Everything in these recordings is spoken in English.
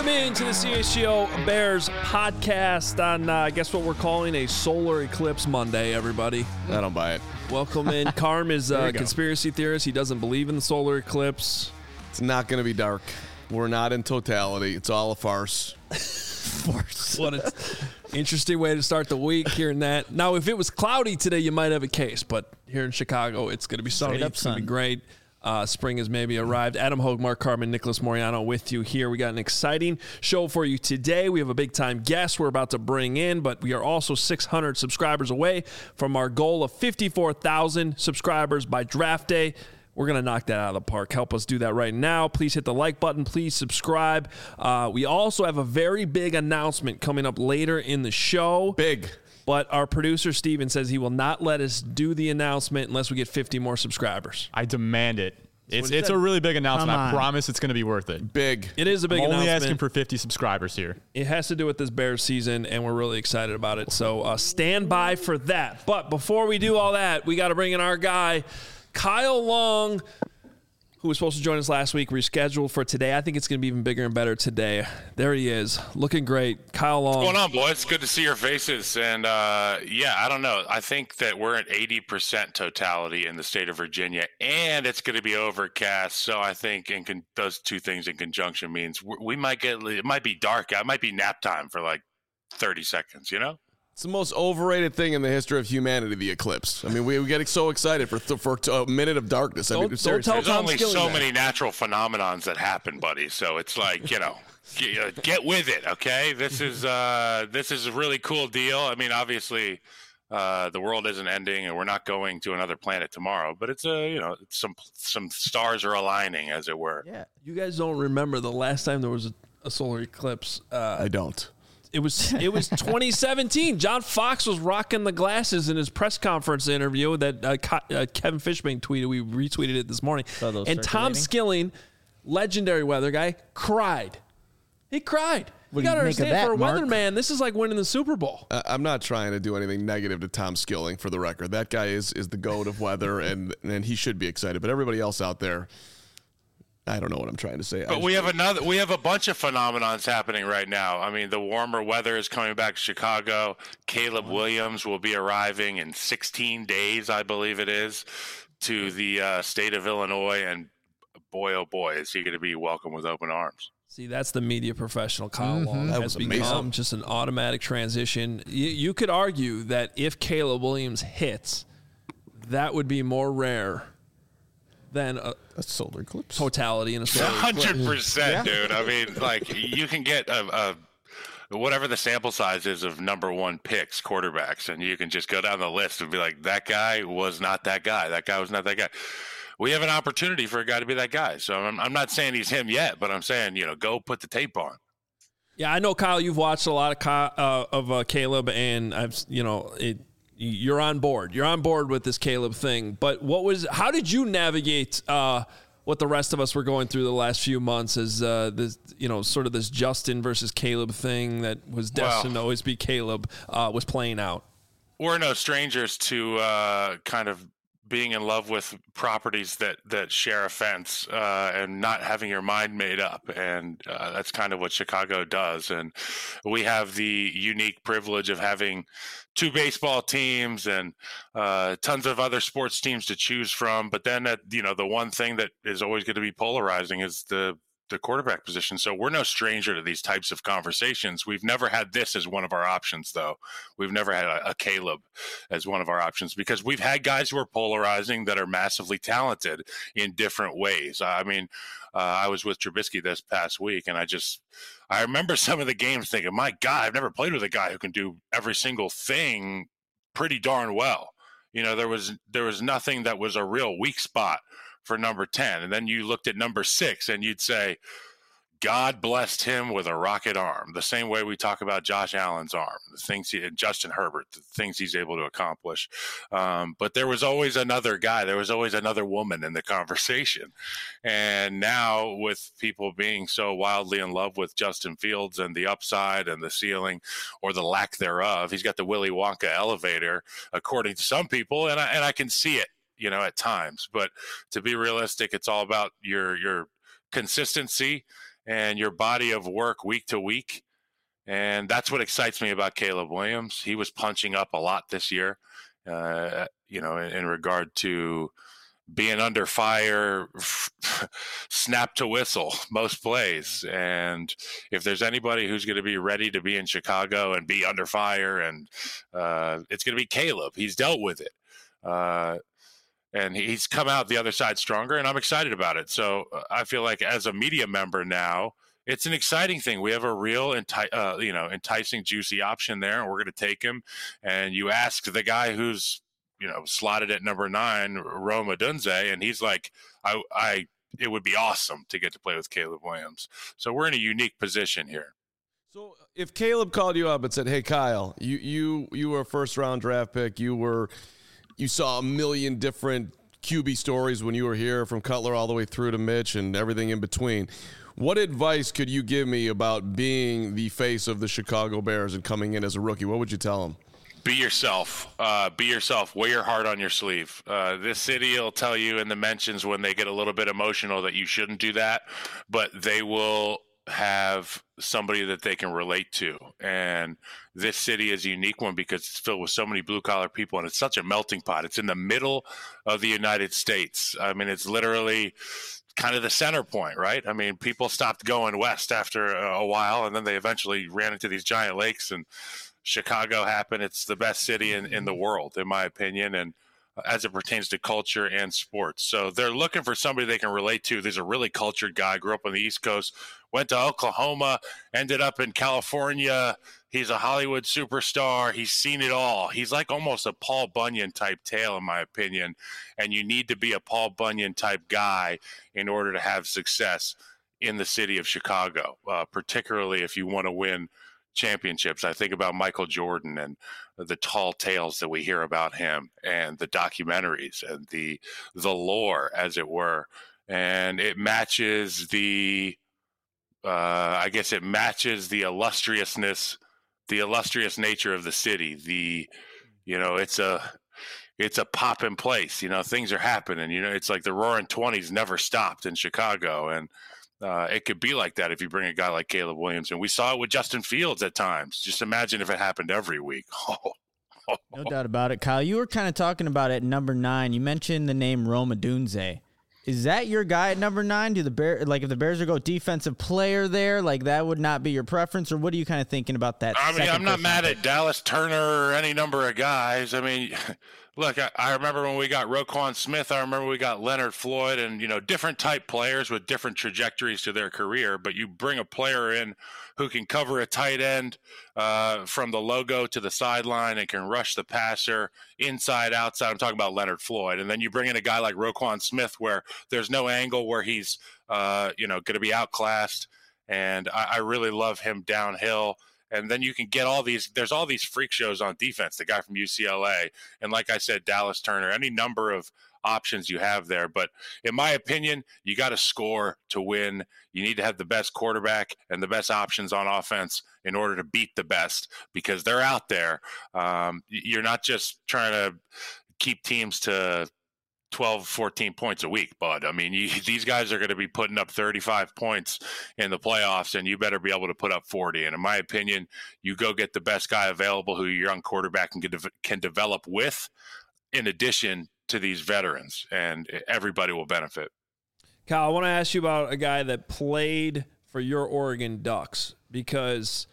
Welcome into the CHGO Bears podcast on, I guess what we're calling a solar eclipse Monday, everybody. I don't buy it. Welcome in. Carm is a conspiracy theorist. He doesn't believe in the solar eclipse. It's not going to be dark. We're not in totality. It's all a farce. What an interesting way to start the week, hearing that. Now, if it was cloudy today, you might have a case, but here in Chicago, it's going to be sunny. It's going to be great. Spring has maybe arrived. Adam Hogue, Mark Carman, Nicholas Moriano with you here. We got an exciting show for you today. We have a big-time guest we're about to bring in, but we are also 600 subscribers away from our goal of 54,000 subscribers by draft day. We're going to knock that out of the park. Help us do that right now. Please hit the like button. Please subscribe. We also have a very big announcement coming up later in the show. Big. But our producer, Steven, says he will not let us do the announcement unless we get 50 more subscribers. I demand it. It's a really big announcement. I promise it's going to be worth it. Big. It is a big announcement. Only asking for 50 subscribers here. It has to do with this Bears season, and we're really excited about it. So stand by for that. But before we do all that, we got to bring in our guy, Kyle Long, who was supposed to join us last week, rescheduled for today. I think it's going to be even bigger and better today. There he is, looking great. Kyle Long. What's going on, boys? Good to see your faces. And, I don't know. I think that we're at 80% totality in the state of Virginia, and it's going to be overcast. So I think those two things in conjunction means we might it might be dark. It might be nap time for like 30 seconds, you know? It's the most overrated thing in the history of humanity, the eclipse. I mean, we get so excited for a minute of darkness. Don't tell There's Tom only Skilling so that. many natural phenomenons that happen, buddy. So it's like, get with it, okay? This is a really cool deal. I mean, obviously, the world isn't ending, and we're not going to another planet tomorrow. But it's some stars are aligning, as it were. Yeah, you guys don't remember the last time there was a solar eclipse. I don't. It was 2017. John Fox was rocking the glasses in his press conference interview that Kevin Fishbane tweeted. We retweeted it this morning. And Tom Skilling, legendary weather guy, cried. He cried. You got to understand, for a weatherman, this is like winning the Super Bowl. I'm not trying to do anything negative to Tom Skilling, for the record. That guy is the goat of weather, and he should be excited. But everybody else out there, I don't know what I'm trying to say. But we have a bunch of phenomenons happening right now. I mean, the warmer weather is coming back to Chicago. Caleb Williams will be arriving in 16 days, I believe it is, to the state of Illinois. And boy, oh boy, is he going to be welcomed with open arms. See, that's the media professional Kyle Long. That has was become amazing. just an automatic transition. You could argue that if Caleb Williams hits, that would be more rare than a solar eclipse totality in a solar eclipse. 100%, dude. I mean, like, you can get a whatever the sample size is of number one picks, quarterbacks, and you can just go down the list and be like, that guy was not that guy. That guy was not that guy. We have an opportunity for a guy to be that guy. So I'm not saying he's him yet, but I'm saying, go put the tape on. Yeah, I know, Kyle, you've watched a lot of Caleb, and you're on board. You're on board with this Caleb thing. But how did you navigate what the rest of us were going through the last few months as this, sort of this Justin versus Caleb thing that was destined to always be Caleb was playing out? We're no strangers to kind of being in love with properties that share a fence and not having your mind made up. And that's kind of what Chicago does. And we have the unique privilege of having two baseball teams and tons of other sports teams to choose from. But then, the one thing that is always going to be polarizing is the quarterback position. So we're no stranger to these types of conversations. We've never had this as one of our options, though. We've never had a Caleb as one of our options because we've had guys who are polarizing that are massively talented in different ways. I mean, I was with Trubisky this past week, and I remember some of the games thinking, my God, I've never played with a guy who can do every single thing pretty darn well. There was nothing that was a real weak spot for number 10. And then you looked at number 6 and you'd say, God blessed him with a rocket arm, the same way we talk about Josh Allen's arm, the things Justin Herbert, the things he's able to accomplish. But there was always another guy. There was always another woman in the conversation. And now with people being so wildly in love with Justin Fields and the upside and the ceiling or the lack thereof, he's got the Willy Wonka elevator, according to some people. And I can see it, at times. But to be realistic, it's all about your consistency and your body of work week to week. And that's what excites me about Caleb Williams. He was punching up a lot this year, in regard to being under fire, snap to whistle most plays. And if there's anybody who's going to be ready to be in Chicago and be under fire, and it's going to be Caleb. He's dealt with it. And he's come out the other side stronger, and I'm excited about it. So I feel like as a media member now, it's an exciting thing. We have a real, enticing, juicy option there, and we're going to take him. And you ask the guy who's, slotted at number 9, Rome Odunze, and he's like, it would be awesome to get to play with Caleb Williams. So we're in a unique position here. So if Caleb called you up and said, "Hey, Kyle, you were a first-round draft pick. You saw a million different QB stories when you were here, from Cutler all the way through to Mitch and everything in between. What advice could you give me about being the face of the Chicago Bears and coming in as a rookie? What would you tell him?" Be yourself. Be yourself. Wear your heart on your sleeve. This city will tell you in the mentions when they get a little bit emotional that you shouldn't do that, but they will have somebody that they can relate to. And this city is a unique one because it's filled with so many blue-collar people, and it's such a melting pot. It's in the middle of the United States. I mean, it's literally kind of the center point, right? I mean, people stopped going west after a while, and then they eventually ran into these giant lakes, and Chicago happened. It's the best city in the world, in my opinion, and as it pertains to culture and sports. So they're looking for somebody they can relate to. There's a really cultured guy, grew up on the East Coast, went to Oklahoma, ended up in California. He's a Hollywood superstar. He's seen it all. He's like almost a Paul Bunyan type tale, in my opinion, and you need to be a Paul Bunyan type guy in order to have success in the city of Chicago, particularly if you want to win championships. I think about Michael Jordan and the tall tales that we hear about him, and the documentaries and the lore, as it were. And it matches the illustrious nature of the city. It's a poppin' place. Things are happening. It's like the Roaring '20s never stopped in Chicago, and it could be like that if you bring a guy like Caleb Williams. And we saw it with Justin Fields at times. Just imagine if it happened every week. No doubt about it. Kyle, you were kind of talking about it at number 9. You mentioned the name Rome Odunze. Is that your guy at number 9? Do the Bears, if the Bears are go defensive player there, that would not be your preference, or what are you kind of thinking about that? I mean, I'm not mad at Dallas Turner or any number of guys. I mean, look, I remember when we got Roquan Smith. I remember we got Leonard Floyd, and different type players with different trajectories to their career. But you bring a player in who can cover a tight end from the logo to the sideline and can rush the passer inside, outside. I'm talking about Leonard Floyd. And then you bring in a guy like Roquan Smith where there's no angle where he's, going to be outclassed. And I really love him downhill. And then you can get there's all these freak shows on defense, the guy from UCLA. And like I said, Dallas Turner, any number of options you have there. But in my opinion, you got to score to win. You need to have the best quarterback and the best options on offense in order to beat the best, because they're out there. You're not just trying to keep teams to 12, 14 points a week, bud. I mean, these guys are going to be putting up 35 points in the playoffs, and you better be able to put up 40. And in my opinion, you go get the best guy available who your young quarterback can develop with, in addition to these veterans, and everybody will benefit. Kyle, I want to ask you about a guy that played for your Oregon Ducks, because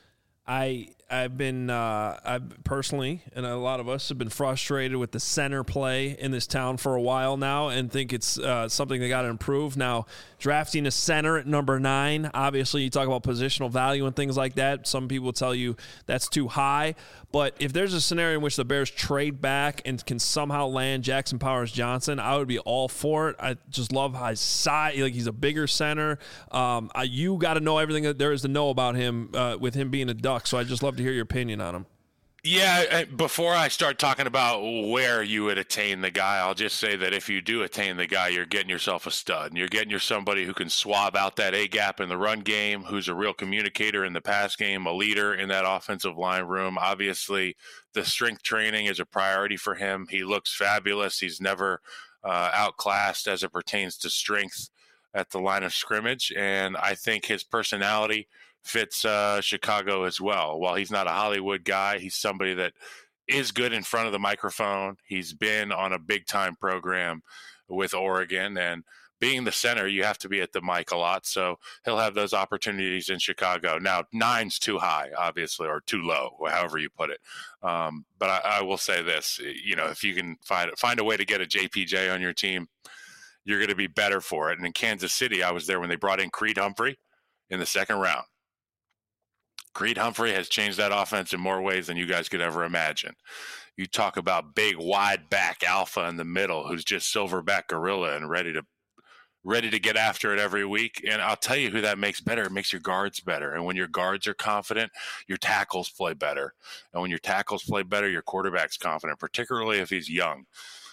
I've personally, and a lot of us have been frustrated with the center play in this town for a while now, and think it's something they got to improve. Now, drafting a center at number 9, obviously you talk about positional value and things like that. Some people tell you that's too high, but if there's a scenario in which the Bears trade back and can somehow land Jackson Powers Johnson, I would be all for it. I just love his size. He's a bigger center. You got to know everything that there is to know about him with him being a Duck, so I'd just love to hear your opinion on him. Yeah, before I start talking about where you would attain the guy, I'll just say that if you do attain the guy, you're getting yourself a stud. And you're getting you somebody who can swab out that A-gap in the run game, who's a real communicator in the pass game, a leader in that offensive line room. Obviously, the strength training is a priority for him. He looks fabulous. He's never outclassed as it pertains to strength at the line of scrimmage, and I think his personality fits Chicago as well. While he's not a Hollywood guy, he's somebody that is good in front of the microphone. He's been on a big-time program with Oregon, and being the center, you have to be at the mic a lot, so he'll have those opportunities in Chicago. Now, 9's too high, obviously, or too low, however you put it. But I will say this, if you can find a way to get a JPJ on your team, you're going to be better for it. And in Kansas City, I was there when they brought in Creed Humphrey in the second round. Creed Humphrey has changed that offense in more ways than you guys could ever imagine. You talk about big, wide back alpha in the middle who's just silverback gorilla and ready to get after it every week. And I'll tell you who that makes better. It makes your guards better. And when your guards are confident, your tackles play better. And when your tackles play better, your quarterback's confident, particularly if he's young.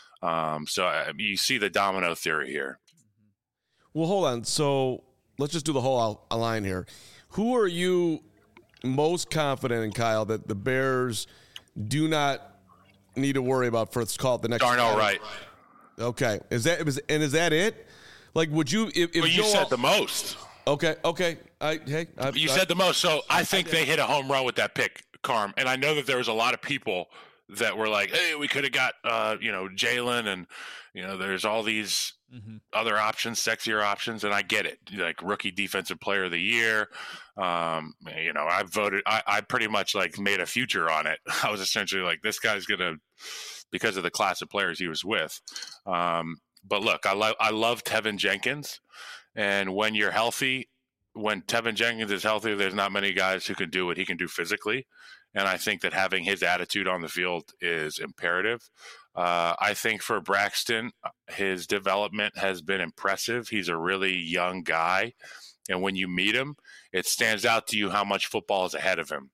So you see the domino theory here. Well, hold on. So let's just do the whole line here. Who are you most confident in, Kyle, that the Bears do not need to worry about for, let's call it the next? Darnell Wright. Okay. Is that it? Like, would you? If you said the most. Okay. You said the most. So I think they hit a home run with that pick, Carm. And I know that there was a lot of people that were like, "Hey, we could have got, Jalen, and there's all these other options, sexier options." And I get it, like rookie defensive player of the year. I voted. I pretty much made a future on it. I was essentially like, this guy's gonna, because of the class of players he was with. But look, I love Tevin Jenkins, and when you're healthy, when Tevin Jenkins is healthy, there's not many guys who can do what he can do physically, and I think that having his attitude on the field is imperative. I think for Braxton, his development has been impressive. He's a really young guy, and when you meet him, it stands out to you how much football is ahead of him.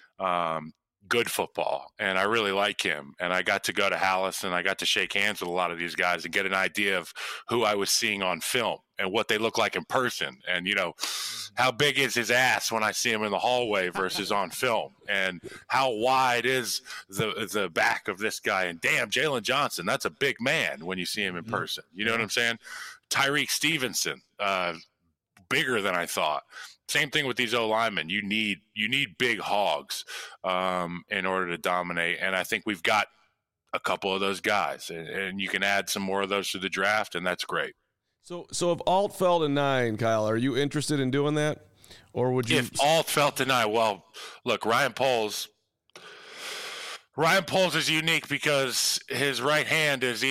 Good football, and I really like him. And I got to go to Hallis, and I got to shake hands with a lot of these guys and get an idea of who I was seeing on film and what they look like in person. And, how big is his ass when I see him in the hallway versus on film, and how wide is the back of this guy. And damn, Jalen Johnson, that's a big man when you see him in person. You know what I'm saying? Tyreek Stevenson, bigger than I thought. Same thing with these O-linemen. You need big hogs in order to dominate, and I think we've got a couple of those guys, and you can add some more of those to the draft, and that's great. So if Alt fell to 9, Kyle, are you interested in doing that, or would you? If Alt fell to 9, well, look, Ryan Poles is unique because his right hand is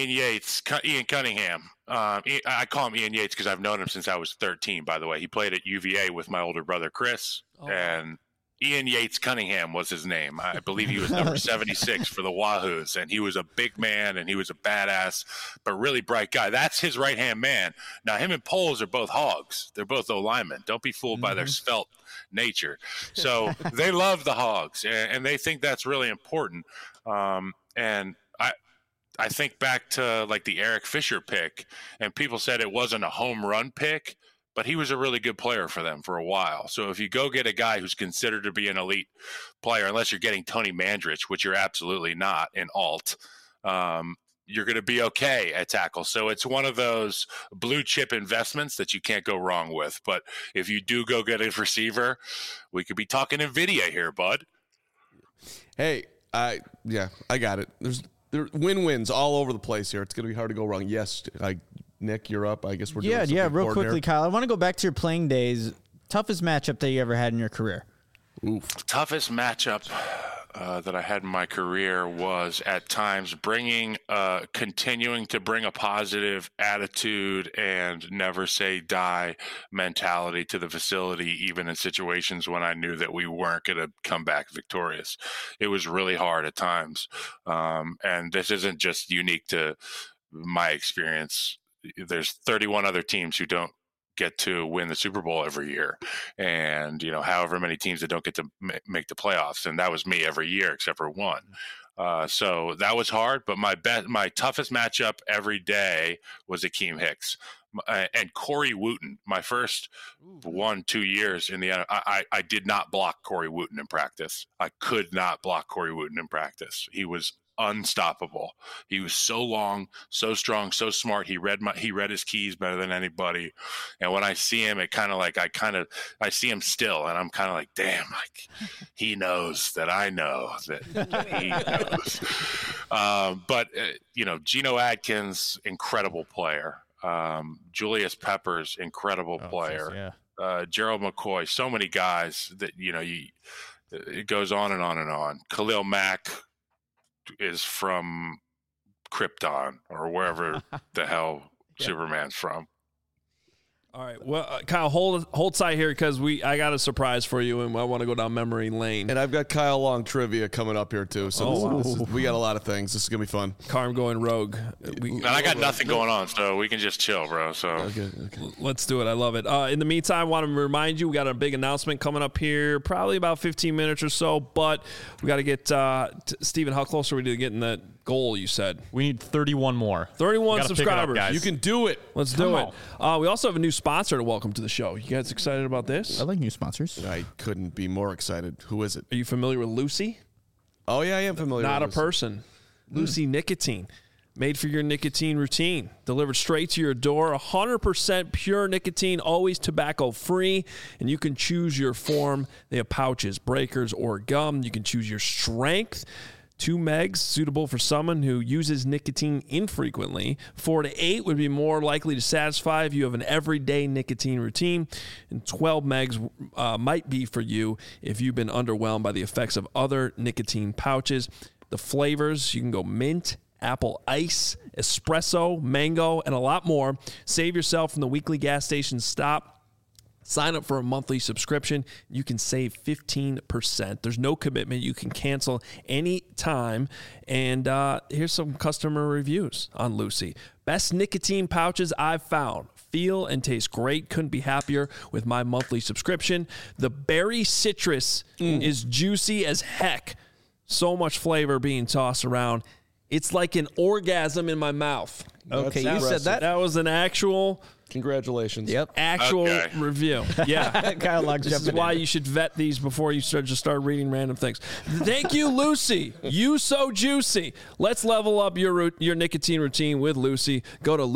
Ian Cunningham. I call him Ian Yates because I've known him since I was 13, by the way. He played at UVA with my older brother, Chris, and Ian Yates Cunningham was his name. I believe he was number 76 for the Wahoos, and he was a big man, and he was a badass, but really bright guy. That's his right-hand man. Now, him and Poles are both hogs. They're both O-linemen. Don't be fooled by their svelte nature. So they love the hogs, and they think that's really important. And I think back to the Eric Fisher pick, and people said it wasn't a home run pick, but he was a really good player for them for a while. So if you go get a guy who's considered to be an elite player, unless you're getting Tony Mandrich, which you're absolutely not in Alt, you're going to be okay at tackle. So it's one of those blue chip investments that you can't go wrong with. But if you do go get a receiver, we could be talking NVIDIA here, bud. Hey, I got it. There win-wins all over the place here. It's going to be hard to go wrong. Yes, Nick, you're up. I guess we're doing something real quickly, Kyle. I want to go back to your playing days. Toughest matchup that you ever had in your career? Oof. Toughest matchup that I had in my career was at times continuing to bring a positive attitude and never say die mentality to the facility, even in situations when I knew that we weren't going to come back victorious. It was really hard at times. And this isn't just unique to my experience. There's 31 other teams who don't get to win the Super Bowl every year, and however many teams that don't get to make the playoffs, and that was me every year except for one. So that was hard, but my toughest matchup every day was Akeem Hicks and Corey Wooten. My first 1-2 years in the I did not block Corey Wooten in practice. I could not block Corey Wooten in practice. He was unstoppable. He was so long, so strong, so smart. He read his keys better than anybody. And when I see him, I see him still, and I'm kind of like, damn, like he knows that I know that he knows. But Geno Atkins, incredible player. Julius Peppers, incredible player. Gerald McCoy, so many guys that it goes on and on and on. Khalil Mack is from Krypton or wherever the hell Superman's from. All right. Well, Kyle, hold tight here because I got a surprise for you, and I want to go down memory lane. And I've got Kyle Long trivia coming up here too. So we got a lot of things. This is gonna be fun. Carm going rogue. And I got nothing going on, so we can just chill, bro. So okay. Let's do it. I love it. In the meantime, I want to remind you we got a big announcement coming up here, probably about 15 minutes or so. But we got to get Stephen. How close are we to getting that goal? You said we need 31 more. 31 subscribers. Up, you can do it. Let's do it. We also have a new sponsor to welcome to the show. You guys excited about this? I like new sponsors. I couldn't be more excited. Who is it? Are you familiar with Lucy? Oh yeah, I am familiar. Not with a Lucy. person. Lucy Nicotine. Made for your nicotine routine. Delivered straight to your door. 100% pure nicotine, always tobacco-free. And you can choose your form. They have pouches, breakers, or gum. You can choose your strength. 2 megs, suitable for someone who uses nicotine infrequently. 4 to 8 would be more likely to satisfy if you have an everyday nicotine routine. And 12 megs might be for you if you've been underwhelmed by the effects of other nicotine pouches. The flavors, you can go mint, apple ice, espresso, mango, and a lot more. Save yourself from the weekly gas station stop. Sign up for a monthly subscription. You can save 15%. There's no commitment. You can cancel any time. And here's some customer reviews on Lucy. Best nicotine pouches I've found. Feel and taste great. Couldn't be happier with my monthly subscription. The berry citrus is juicy as heck. So much flavor being tossed around. It's like an orgasm in my mouth. Okay, you said that. That was an actual... Congratulations. Yep. Actual review. Yeah. Kyle Locke's This is why you should vet these before you start reading random things. Thank you, Lucy. You so juicy. Let's level up your nicotine routine with Lucy. Go to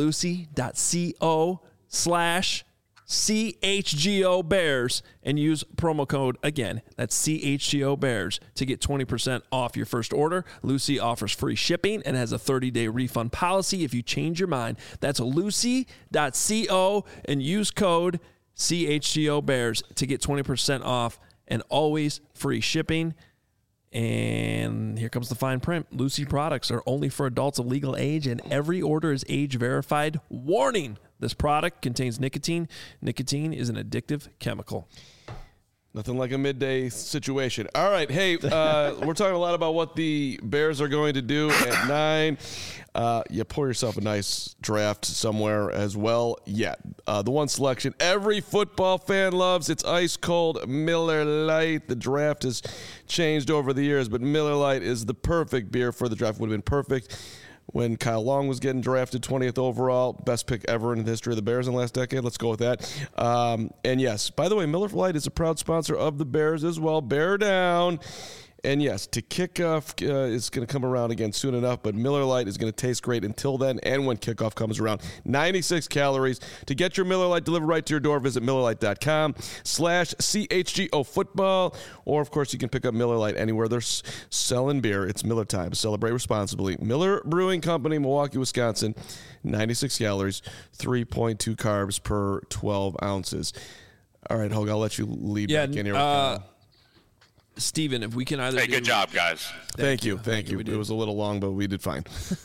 lucy.co/CHGO Bears and use promo code again. That's CHGO Bears to get 20% off your first order. Lucy offers free shipping and has a 30-day refund policy if you change your mind. That's lucy.co and use code CHGO Bears to get 20% off and always free shipping. And here comes the fine print. Lucy products are only for adults of legal age, and every order is age verified. Warning: this product contains nicotine. Nicotine is an addictive chemical. Nothing like a midday situation. All right. Hey, we're talking a lot about what the Bears are going to do at 9. You pour yourself a nice draft somewhere as well. Yeah. The one selection every football fan loves. It's ice cold Miller Lite. The draft has changed over the years, but Miller Lite is the perfect beer for the draft. Would have been perfect when Kyle Long was getting drafted 20th overall. Best pick ever in the history of the Bears in the last decade. Let's go with that. And yes, by the way, Miller Lite is a proud sponsor of the Bears as well. Bear down. And yes, to kickoff is going to come around again soon enough, but Miller Lite is going to taste great until then and when kickoff comes around. 96 calories. To get your Miller Lite delivered right to your door, visit MillerLite.com/CHGO football. Or, of course, you can pick up Miller Lite anywhere they're selling beer. It's Miller time. Celebrate responsibly. Miller Brewing Company, Milwaukee, Wisconsin. 96 calories, 3.2 carbs per 12 ounces. All right, Hogue, I'll let you lead back in here. Steven, if we can either good job, guys. Thank you. It was a little long, but we did fine.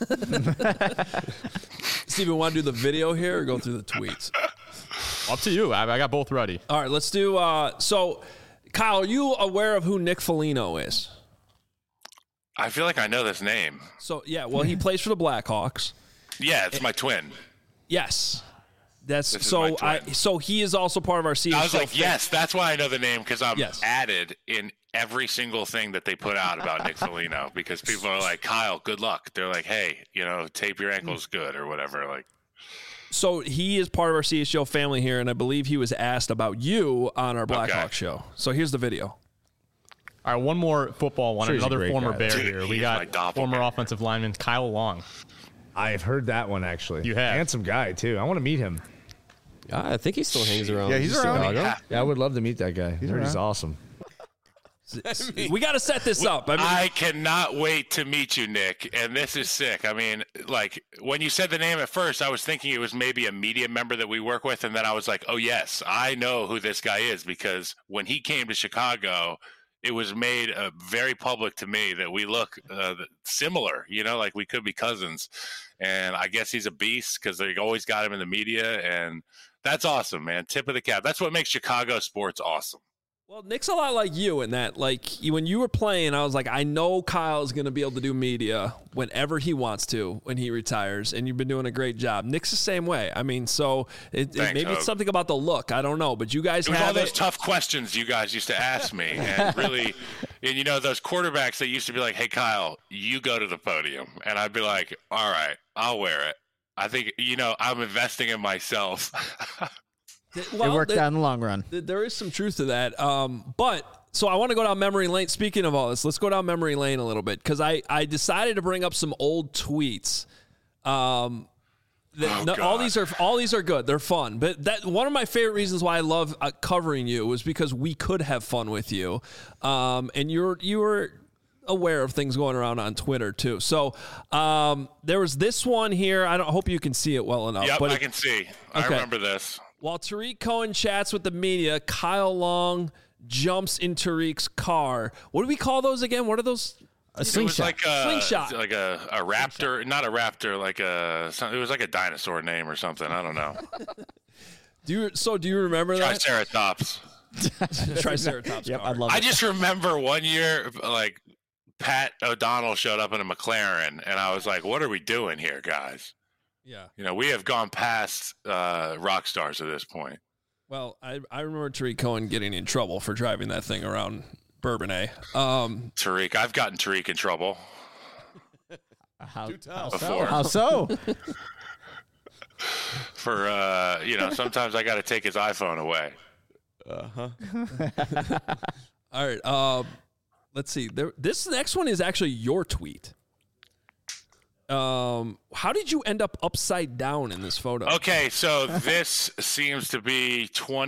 Steven, want to do the video here or go through the tweets? Up to you. I got both ready. All right, let's do so Kyle, are you aware of who Nick Foligno is? I feel like I know this name. So yeah, well, he plays for the Blackhawks. Yeah, it's my twin. Yes. So he is also part of our CHGO. I was like, yes, that's why I know the name, because I'm added in every single thing that they put out about Nick Foligno, because people are like, Kyle, good luck. They're like, hey, tape your ankles good or whatever. Like, so he is part of our CHGO family here, and I believe he was asked about you on our Blackhawk show. So here's the video. All right, one more football one. Another former Bear here. We got former offensive lineman Kyle Long. I've heard that one, actually. You have? Handsome guy, too. I want to meet him. I think he still hangs around. Yeah, he's around. Yeah, I would love to meet that guy. He's awesome. We got to set this up. I cannot wait to meet you, Nick. And this is sick. I mean, like, when you said the name at first, I was thinking it was maybe a media member that we work with. And then I was like, oh, yes, I know who this guy is, because when he came to Chicago, it was made very public to me that we look similar, like we could be cousins. And I guess he's a beast because they always got him in the media. And that's awesome, man. Tip of the cap. That's what makes Chicago sports awesome. Well, Nick's a lot like you in that, like, when you were playing, I was like, I know Kyle's going to be able to do media whenever he wants to when he retires, and you've been doing a great job. Nick's the same way. I mean, so maybe it's something about the look. I don't know, but you guys have all those tough questions you guys used to ask me, and really, and those quarterbacks that used to be like, hey, Kyle, you go to the podium, and I'd be like, all right, I'll wear it. I think, I'm investing in myself. Well, it worked out in the long run. There is some truth to that. But so I want to go down memory lane. Speaking of all this, let's go down memory lane a little bit, because I decided to bring up some old tweets. All these are good. They're fun. But one of my favorite reasons why I love covering you was because we could have fun with you. And you were aware of things going around on Twitter too. So there was this one here. I hope you can see it well enough. Yep, but I can see. I remember this. While Tarik Cohen chats with the media, Kyle Long jumps in Tarik's car. What do we call those again? What are those? A slingshot. It was slingshot. Like a raptor, not a raptor, it was like a dinosaur name or something. I don't know. Do you remember that? Triceratops. Triceratops. Yep, I love it. I just remember one year, like, Pat O'Donnell showed up in a McLaren, and I was like, what are we doing here, guys? Yeah. We have gone past rock stars at this point. Well, I remember Tarik Cohen getting in trouble for driving that thing around Bourbonnais. Tarik, I've gotten Tarik in trouble. How so? For, sometimes I got to take his iPhone away. All right. Let's see. This next one is actually your tweet. How did you end up upside down in this photo? Okay, so this seems to be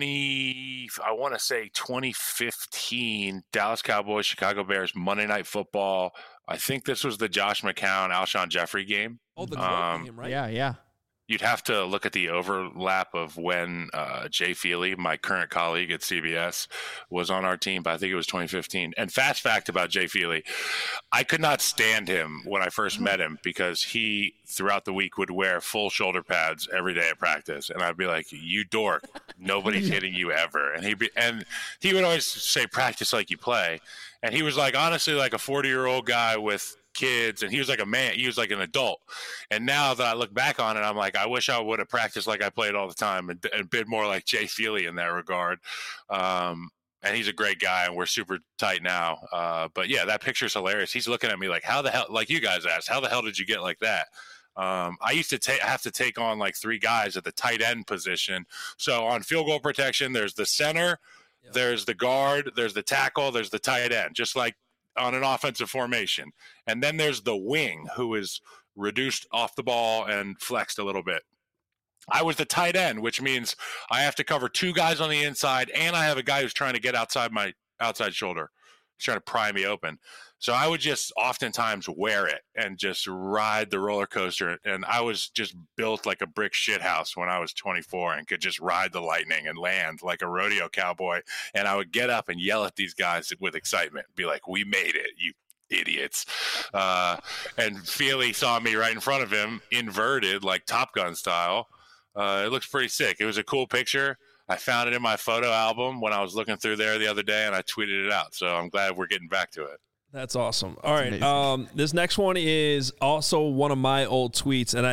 2015 Dallas Cowboys, Chicago Bears, Monday Night Football. I think this was the Josh McCown, Alshon Jeffrey game. Oh, the game, right? Yeah. You'd have to look at the overlap of when Jay Feely, my current colleague at CBS, was on our team, but I think it was 2015. And fast fact about Jay Feely, I could not stand him when I first met him because he, throughout the week, would wear full shoulder pads every day at practice. And I'd be like, you dork, nobody's hitting you ever. And he would always say, practice like you play. And he was like, honestly, like a 40-year-old guy with kids, and he was like a man, he was like an adult. And now that I look back on it, I'm like, I wish I would have practiced like I played all the time and been more like Jay Feely in that regard. And he's a great guy, and we're super tight now. But yeah, that picture's hilarious. He's looking at me like, how the hell, like you guys asked, how the hell did you get like that? I used to have to take on like three guys at the tight end position. So on field goal protection, there's the center, there's the guard, there's the tackle, there's the tight end, just like on an offensive formation. And then there's the wing, who is reduced off the ball and flexed a little bit. I was the tight end, which means I have to cover two guys on the inside, and I have a guy who's trying to get outside my outside shoulder. He's trying to pry me open. So I would just oftentimes wear it and just ride the roller coaster. And I was just built like a brick shit house when I was 24 and could just ride the lightning and land like a rodeo cowboy. And I would get up and yell at these guys with excitement, be like, we made it, you idiots. And Feely saw me right in front of him, inverted like Top Gun style. It looks pretty sick. It was a cool picture. I found it in my photo album when I was looking through there the other day, and I tweeted it out. So I'm glad we're getting back to it. That's awesome. All right. This next one is also one of my old tweets, and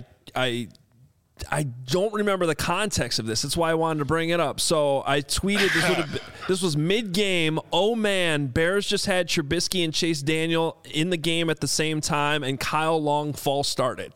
I don't remember the context of this. That's why I wanted to bring it up. So I tweeted, this was mid-game. Oh, man, Bears just had Trubisky and Chase Daniel in the game at the same time, and Kyle Long false started.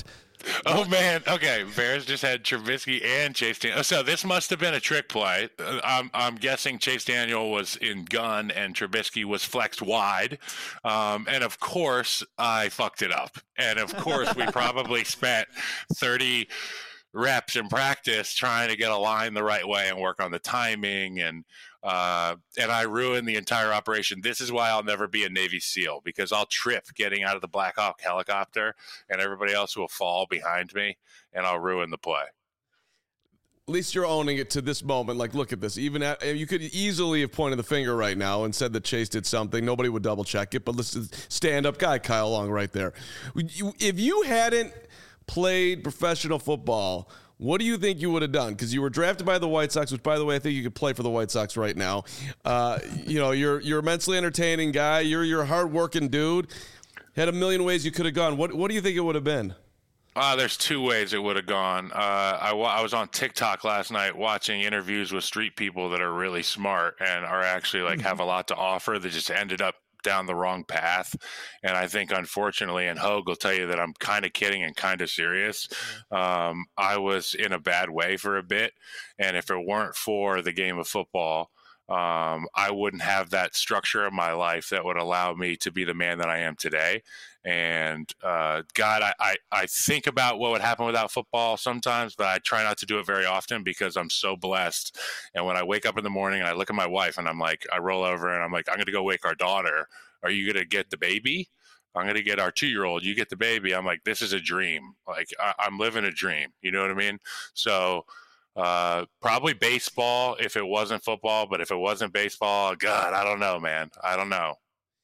Oh, man. Okay. Bears just had Trubisky and Chase Daniel. So this must have been a trick play. I'm guessing Chase Daniel was in gun and Trubisky was flexed wide. And, of course, I fucked it up. And, of course, we probably spent 30 reps in practice trying to get a line the right way and work on the timing. And I ruined the entire operation. This is why I'll never be a Navy SEAL, because I'll trip getting out of the Black Hawk helicopter and everybody else will fall behind me and I'll ruin the play. At least you're owning it to this moment. Like, look at this. Even you could easily have pointed the finger right now and said that Chase did something. Nobody would double check it, but listen, stand-up guy Kyle Long right there. If you hadn't played professional football, what do you think you would have done? Because you were drafted by the White Sox, which, by the way, I think you could play for the White Sox right now. You're a mentally entertaining guy. You're a hard-working dude. Had a million ways you could have gone. What do you think it would have been? There's two ways it would have gone. I was on TikTok last night watching interviews with street people that are really smart and are actually have a lot to offer that just ended up down the wrong path. And I think, unfortunately, and Hogue will tell you that I'm kind of kidding and kind of serious. I was in a bad way for a bit. And if it weren't for the game of football, I wouldn't have that structure of my life that would allow me to be the man that I am today. And God, I think about what would happen without football sometimes, but I try not to do it very often because I'm so blessed. And when I wake up in the morning and I look at my wife and I'm like, I roll over and I'm like, I'm going to go wake our daughter. Are you going to get the baby? I'm going to get our 2-year-old. You get the baby. I'm like, this is a dream. Like I'm living a dream. You know what I mean? So probably baseball if it wasn't football, but if it wasn't baseball, God, I don't know, man. I don't know.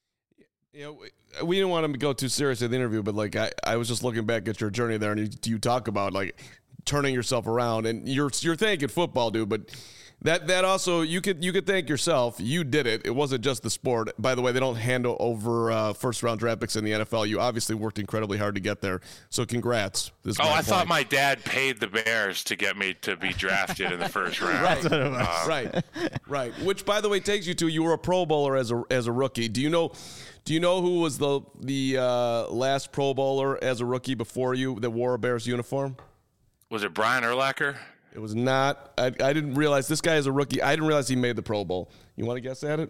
We didn't want to go too serious in the interview, but I was just looking back at your journey there, and you talk about turning yourself around, and you're thanking football, dude. But that also you could thank yourself. You did it. It wasn't just the sport. By the way, they don't hand over first round draft picks in the NFL. You obviously worked incredibly hard to get there. So congrats. I thought my dad paid the Bears to get me to be drafted in the first round. Right. Which, by the way, takes you to you were a Pro Bowler as a rookie. Do you know who was the last Pro Bowler as a rookie before you that wore a Bears uniform? Was it Brian Urlacher? It was not. I didn't realize this guy is a rookie. I didn't realize he made the Pro Bowl. You want to guess at it?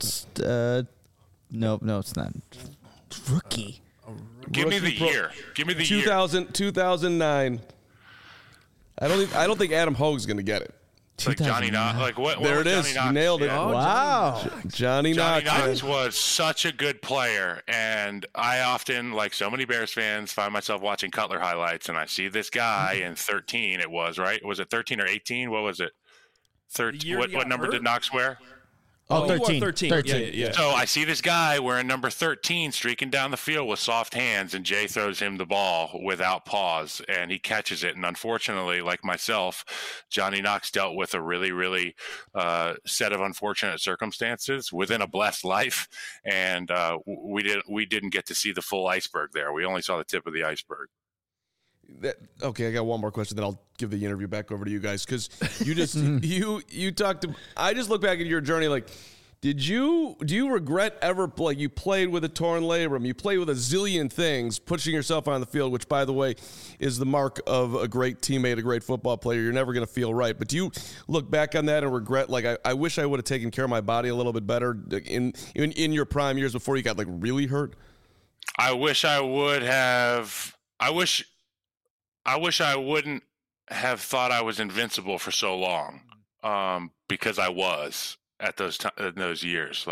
No, it's not. Rookie. Give me the year. 2009. I don't think Adam Hogue's going to get it. Like Johnny Knox. Like what? There it is. You nailed it. Yeah. Wow. Johnny Knox was such a good player, and I often, like so many Bears fans, find myself watching Cutler highlights, and I see this guy in 13. It was right. Was it 13 or 18? What was it? 13. What number did Knox wear? Oh, 13. 13. Yeah. So I see this guy wearing number 13 streaking down the field with soft hands, and Jay throws him the ball without pause, and he catches it. And unfortunately, like myself, Johnny Knox dealt with a really, really set of unfortunate circumstances within a blessed life, and we didn't get to see the full iceberg there. We only saw the tip of the iceberg. Okay, I got one more question, then I'll give the interview back over to you guys, because you just you talked to. I just look back at your journey. Do you regret ever you played with a torn labrum, you played with a zillion things, pushing yourself on the field, which, by the way, is the mark of a great teammate, a great football player. You're never going to feel right, but do you look back on that and regret? I wish I would have taken care of my body a little bit better in your prime years before you got really hurt. I wish I would have. I wish I wouldn't have thought I was invincible for so long, because I was at those years.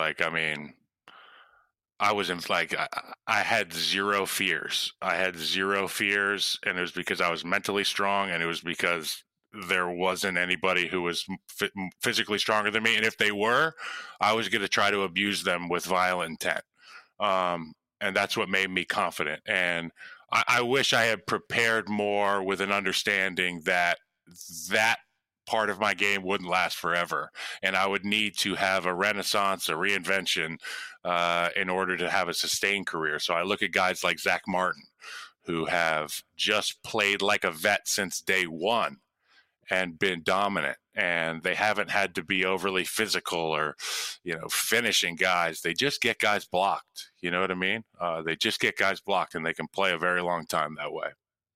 I was I had zero fears. And it was because I was mentally strong, and it was because there wasn't anybody who was physically stronger than me. And if they were, I was going to try to abuse them with violent intent. And that's what made me confident. And I wish I had prepared more with an understanding that part of my game wouldn't last forever, and I would need to have a renaissance, a reinvention, in order to have a sustained career. So I look at guys like Zach Martin, who have just played like a vet since day one and been dominant, and they haven't had to be overly physical or, finishing guys. They just get guys blocked. You know what I mean? They just get guys blocked, and they can play a very long time that way.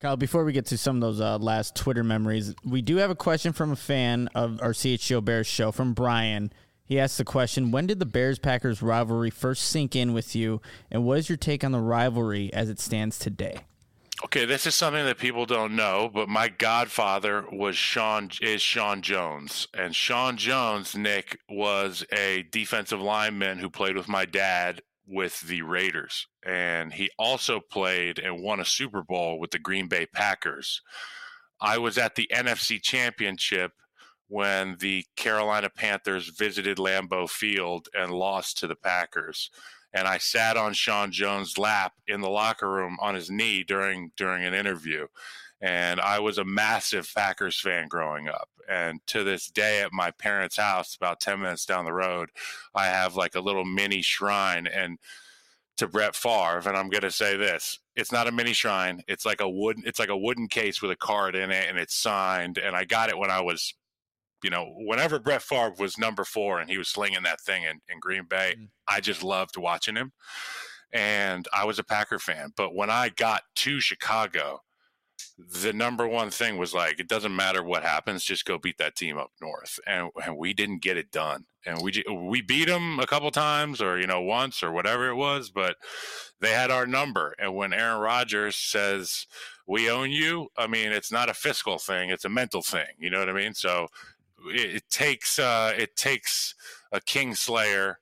Kyle, before we get to some of those last Twitter memories, we do have a question from a fan of our CHGO Bears show, from Brian. He asked the question, when did the Bears-Packers rivalry first sink in with you, and what is your take on the rivalry as it stands today? Okay, this is something that people don't know, but my godfather is Sean Jones. And Sean Jones, Nick, was a defensive lineman who played with my dad with the Raiders. And he also played and won a Super Bowl with the Green Bay Packers. I was at the NFC Championship when the Carolina Panthers visited Lambeau Field and lost to the Packers. And I sat on Sean Jones' lap in the locker room on his knee during an interview. And I was a massive Packers fan growing up. And to this day at my parents' house, about 10 minutes down the road, I have like a little mini shrine and to Brett Favre. And I'm going to say this. It's not a mini shrine. It's like a wooden case with a card in it, and it's signed. And I got it when I was, whenever Brett Favre was number 4 and he was slinging that thing in Green Bay, I just loved watching him. And I was a Packer fan. But when I got to Chicago, the number one thing was like, it doesn't matter what happens, just go beat that team up north. And we didn't get it done. And we beat them a couple times or, once or whatever it was, but they had our number. And when Aaron Rodgers says, we own you, I mean, it's not a fiscal thing, it's a mental thing. You know what I mean? So it takes a Kingslayer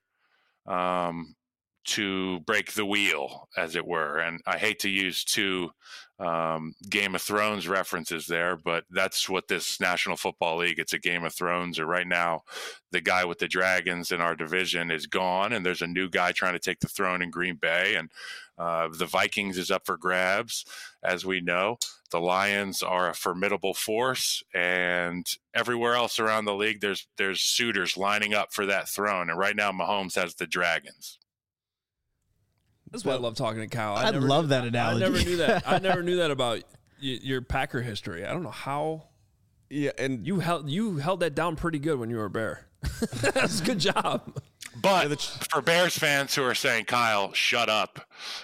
to break the wheel, as it were. And I hate to use two Game of Thrones references there, but that's what this National Football League, it's a Game of Thrones. Or right now, the guy with the dragons in our division is gone, and there's a new guy trying to take the throne in Green Bay. And the Vikings is up for grabs, as we know. The Lions are a formidable force, and everywhere else around the league, there's suitors lining up for that throne. And right now, Mahomes has the dragons. That's why I love talking to Kyle. I love that analogy. I never knew that. I never knew that about your Packer history. I don't know how. Yeah, and you held that down pretty good when you were a Bear. That's a good job. But for Bears fans who are saying, Kyle, shut up.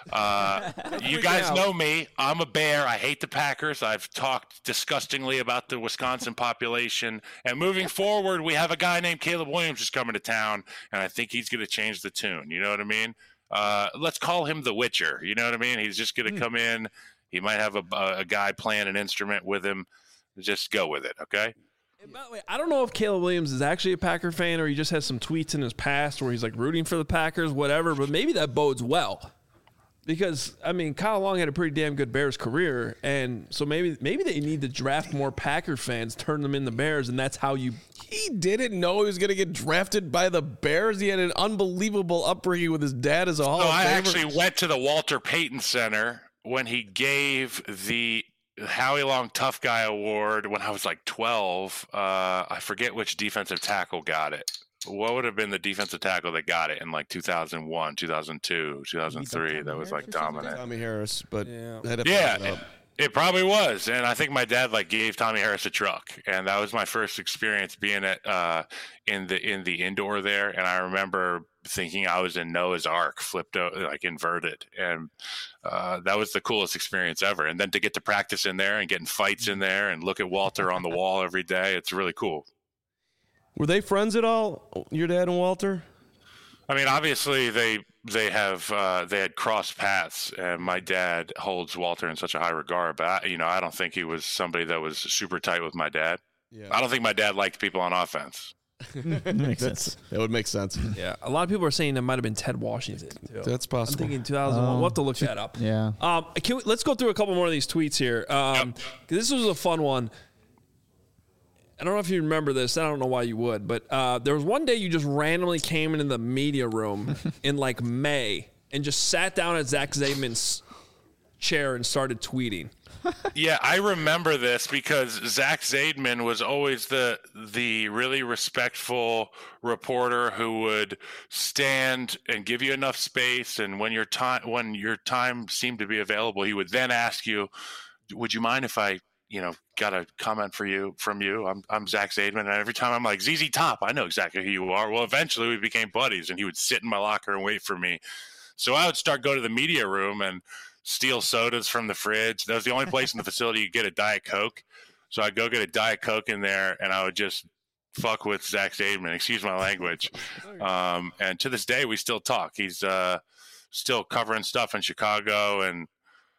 You guys know me. I'm a Bear. I hate the Packers. I've talked disgustingly about the Wisconsin population. And moving forward, we have a guy named Caleb Williams who's coming to town, and I think he's going to change the tune. You know what I mean? Let's call him the Witcher. You know what I mean? He's just going to come in. He might have a guy playing an instrument with him. Just go with it, okay? And by the way, I don't know if Caleb Williams is actually a Packer fan or he just has some tweets in his past where he's like rooting for the Packers, whatever, but maybe that bodes well. Because, I mean, Kyle Long had a pretty damn good Bears career, and so maybe they need to draft more Packer fans, turn them into Bears, and that's how you... He didn't know he was going to get drafted by the Bears. He had an unbelievable upbringing with his dad as a Hall of Famer. I actually went to the Walter Payton Center when he gave the Howie Long Tough Guy Award when I was like 12. I forget which defensive tackle got it. What would have been the defensive tackle that got it in like 2001, 2002, 2003? That was like dominant. Tommy Harris, but it probably was. And I think my dad like gave Tommy Harris a truck, and that was my first experience being at in the indoor there. And I remember thinking I was in Noah's Ark, flipped out, like inverted, and that was the coolest experience ever. And then to get to practice in there and get in fights in there and look at Walter on the wall every day, it's really cool. Were they friends at all, your dad and Walter? I mean, obviously they had crossed paths, and my dad holds Walter in such a high regard. But I don't think he was somebody that was super tight with my dad. Yeah. I don't think my dad liked people on offense. Makes sense. That would make sense. Yeah, a lot of people are saying that might have been Ted Washington too. That's possible. I'm thinking 2001. We'll have to look that up. Yeah. Let's go through a couple more of these tweets here. This was a fun one. I don't know if you remember this. I don't know why you would, but there was one day you just randomly came into the media room in like May and just sat down at Zach Zaidman's chair and started tweeting. Yeah, I remember this because Zach Zaidman was always the really respectful reporter who would stand and give you enough space, and when your time seemed to be available, he would then ask you, "Would you mind if I got a comment from you. I'm Zach Zaidman." And every time I'm like, ZZ Top, I know exactly who you are. Well, eventually we became buddies, and he would sit in my locker and wait for me. So I would go to the media room and steal sodas from the fridge. That was the only place in the facility you get a Diet Coke. So I'd go get a Diet Coke in there, and I would just fuck with Zach Zaidman. Excuse my language. And to this day, we still talk. He's still covering stuff in Chicago, and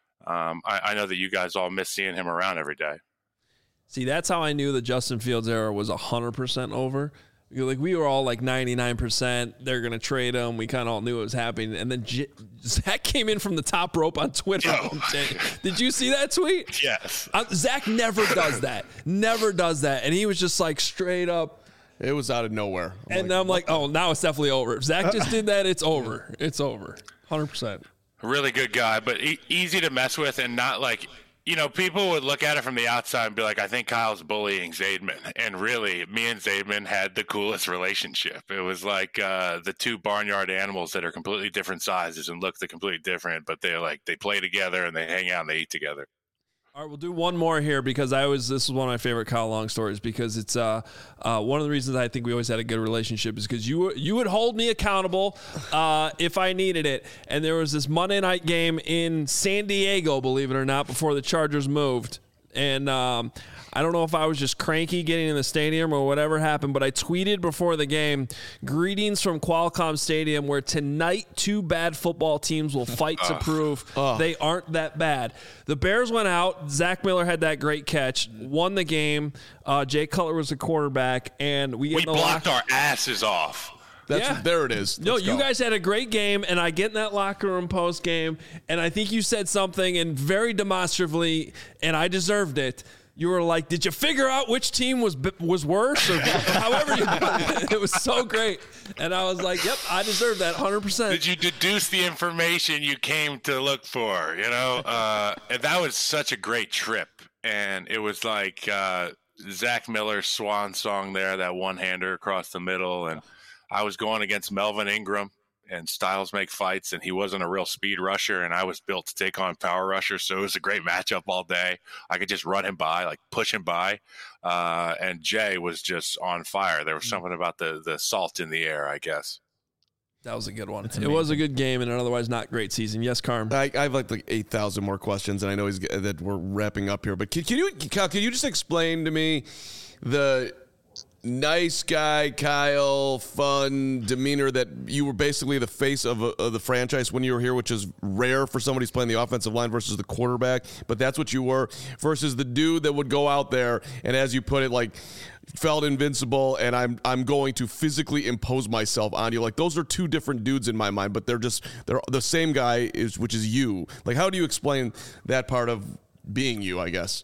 I know that you guys all miss seeing him around every day. See, that's how I knew the Justin Fields era was 100% over. Like, we were all like 99%. They're going to trade him. We kind of all knew it was happening. And then Zach came in from the top rope on Twitter. Did you see that tweet? Yes. Zach never does that. Never does that. And he was just like straight up. It was out of nowhere. I'm like, oh, now it's definitely over. If Zach just did that, it's over. It's over. 100%. Really good guy, but easy to mess with, and not like, people would look at it from the outside and be like, I think Kyle's bullying Zaidman. And really, me and Zaidman had the coolest relationship. It was like the two barnyard animals that are completely different sizes and look completely different, but they play together and they hang out and they eat together. All right, we'll do one more here because this is one of my favorite Kyle Long stories, because it's one of the reasons I think we always had a good relationship is because you would hold me accountable if I needed it. And there was this Monday night game in San Diego, believe it or not, before the Chargers moved. And I don't know if I was just cranky getting in the stadium or whatever happened, but I tweeted before the game, greetings from Qualcomm Stadium, where tonight 2 bad football teams will fight to prove they aren't that bad. The Bears went out. Zach Miller had that great catch, won the game. Jay Cutler was the quarterback, and we blocked our asses off. There it is. No, you guys had a great game, and I get in that locker room post game, and I think you said something, and very demonstratively, and I deserved it. You were like, "Did you figure out which team was worse?" Or however you put it. It was so great, and I was like, "Yep, I deserve that 100%." Did you deduce the information you came to look for? And that was such a great trip, and it was like Zach Miller's swan song there, that one-hander across the middle, and I was going against Melvin Ingram, and styles make fights, and he wasn't a real speed rusher, and I was built to take on power rushers, so it was a great matchup all day. I could just run him by, like push him by, and Jay was just on fire. There was something about the salt in the air, I guess. That was a good one. It was a good game and an otherwise not great season. Yes, Carm? I have like 8,000 more questions, and I know that we're wrapping up here, but can you just explain to me the nice guy, Kyle, fun demeanor that you were basically the face of the franchise when you were here, which is rare for somebody who's playing the offensive line versus the quarterback, but that's what you were, versus the dude that would go out there and, as you put it, like felt invincible, and I'm going to physically impose myself on you. Like, those are two different dudes in my mind, but they're the same guy, which is you. Like, how do you explain that part of being you, I guess?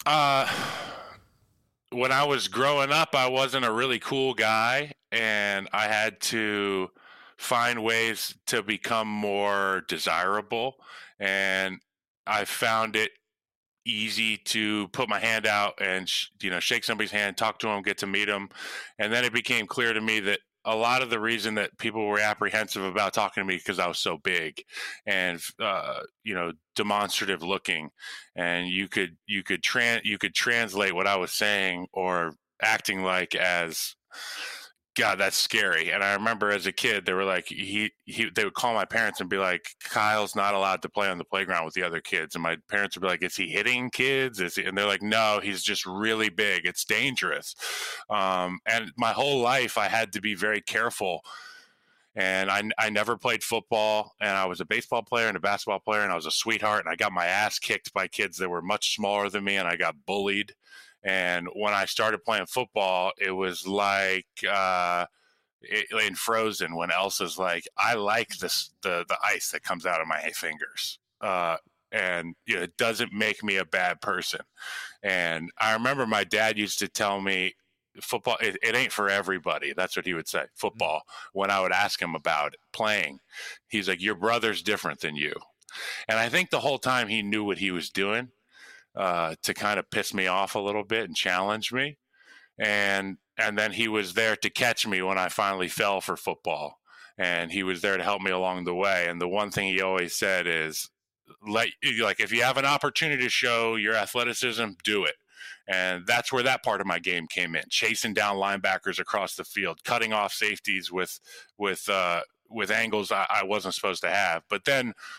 When I was growing up, I wasn't a really cool guy, and I had to find ways to become more desirable. And I found it easy to put my hand out and shake somebody's hand, talk to them, get to meet them. And then it became clear to me that a lot of the reason that people were apprehensive about talking to me because I was so big and demonstrative looking, and you could translate what I was saying or acting like as, God, that's scary. And I remember as a kid, they were like, they would call my parents and be like, Kyle's not allowed to play on the playground with the other kids. And my parents would be like, is he hitting kids? And they're like, no, he's just really big. It's dangerous. And my whole life I had to be very careful. And I never played football, and I was a baseball player and a basketball player, and I was a sweetheart, and I got my ass kicked by kids that were much smaller than me, and I got bullied. And when I started playing football, it was like in Frozen when Elsa's like, I like the ice that comes out of my fingers. And it doesn't make me a bad person. And I remember my dad used to tell me, football, it ain't for everybody. That's what he would say, football. When I would ask him about playing, he's like, your brother's different than you. And I think the whole time he knew what he was doing. To kind of piss me off a little bit and challenge me. And then he was there to catch me when I finally fell for football. And he was there to help me along the way. And the one thing he always said is, if you have an opportunity to show your athleticism, do it. And that's where that part of my game came in, chasing down linebackers across the field, cutting off safeties with angles I wasn't supposed to have. But then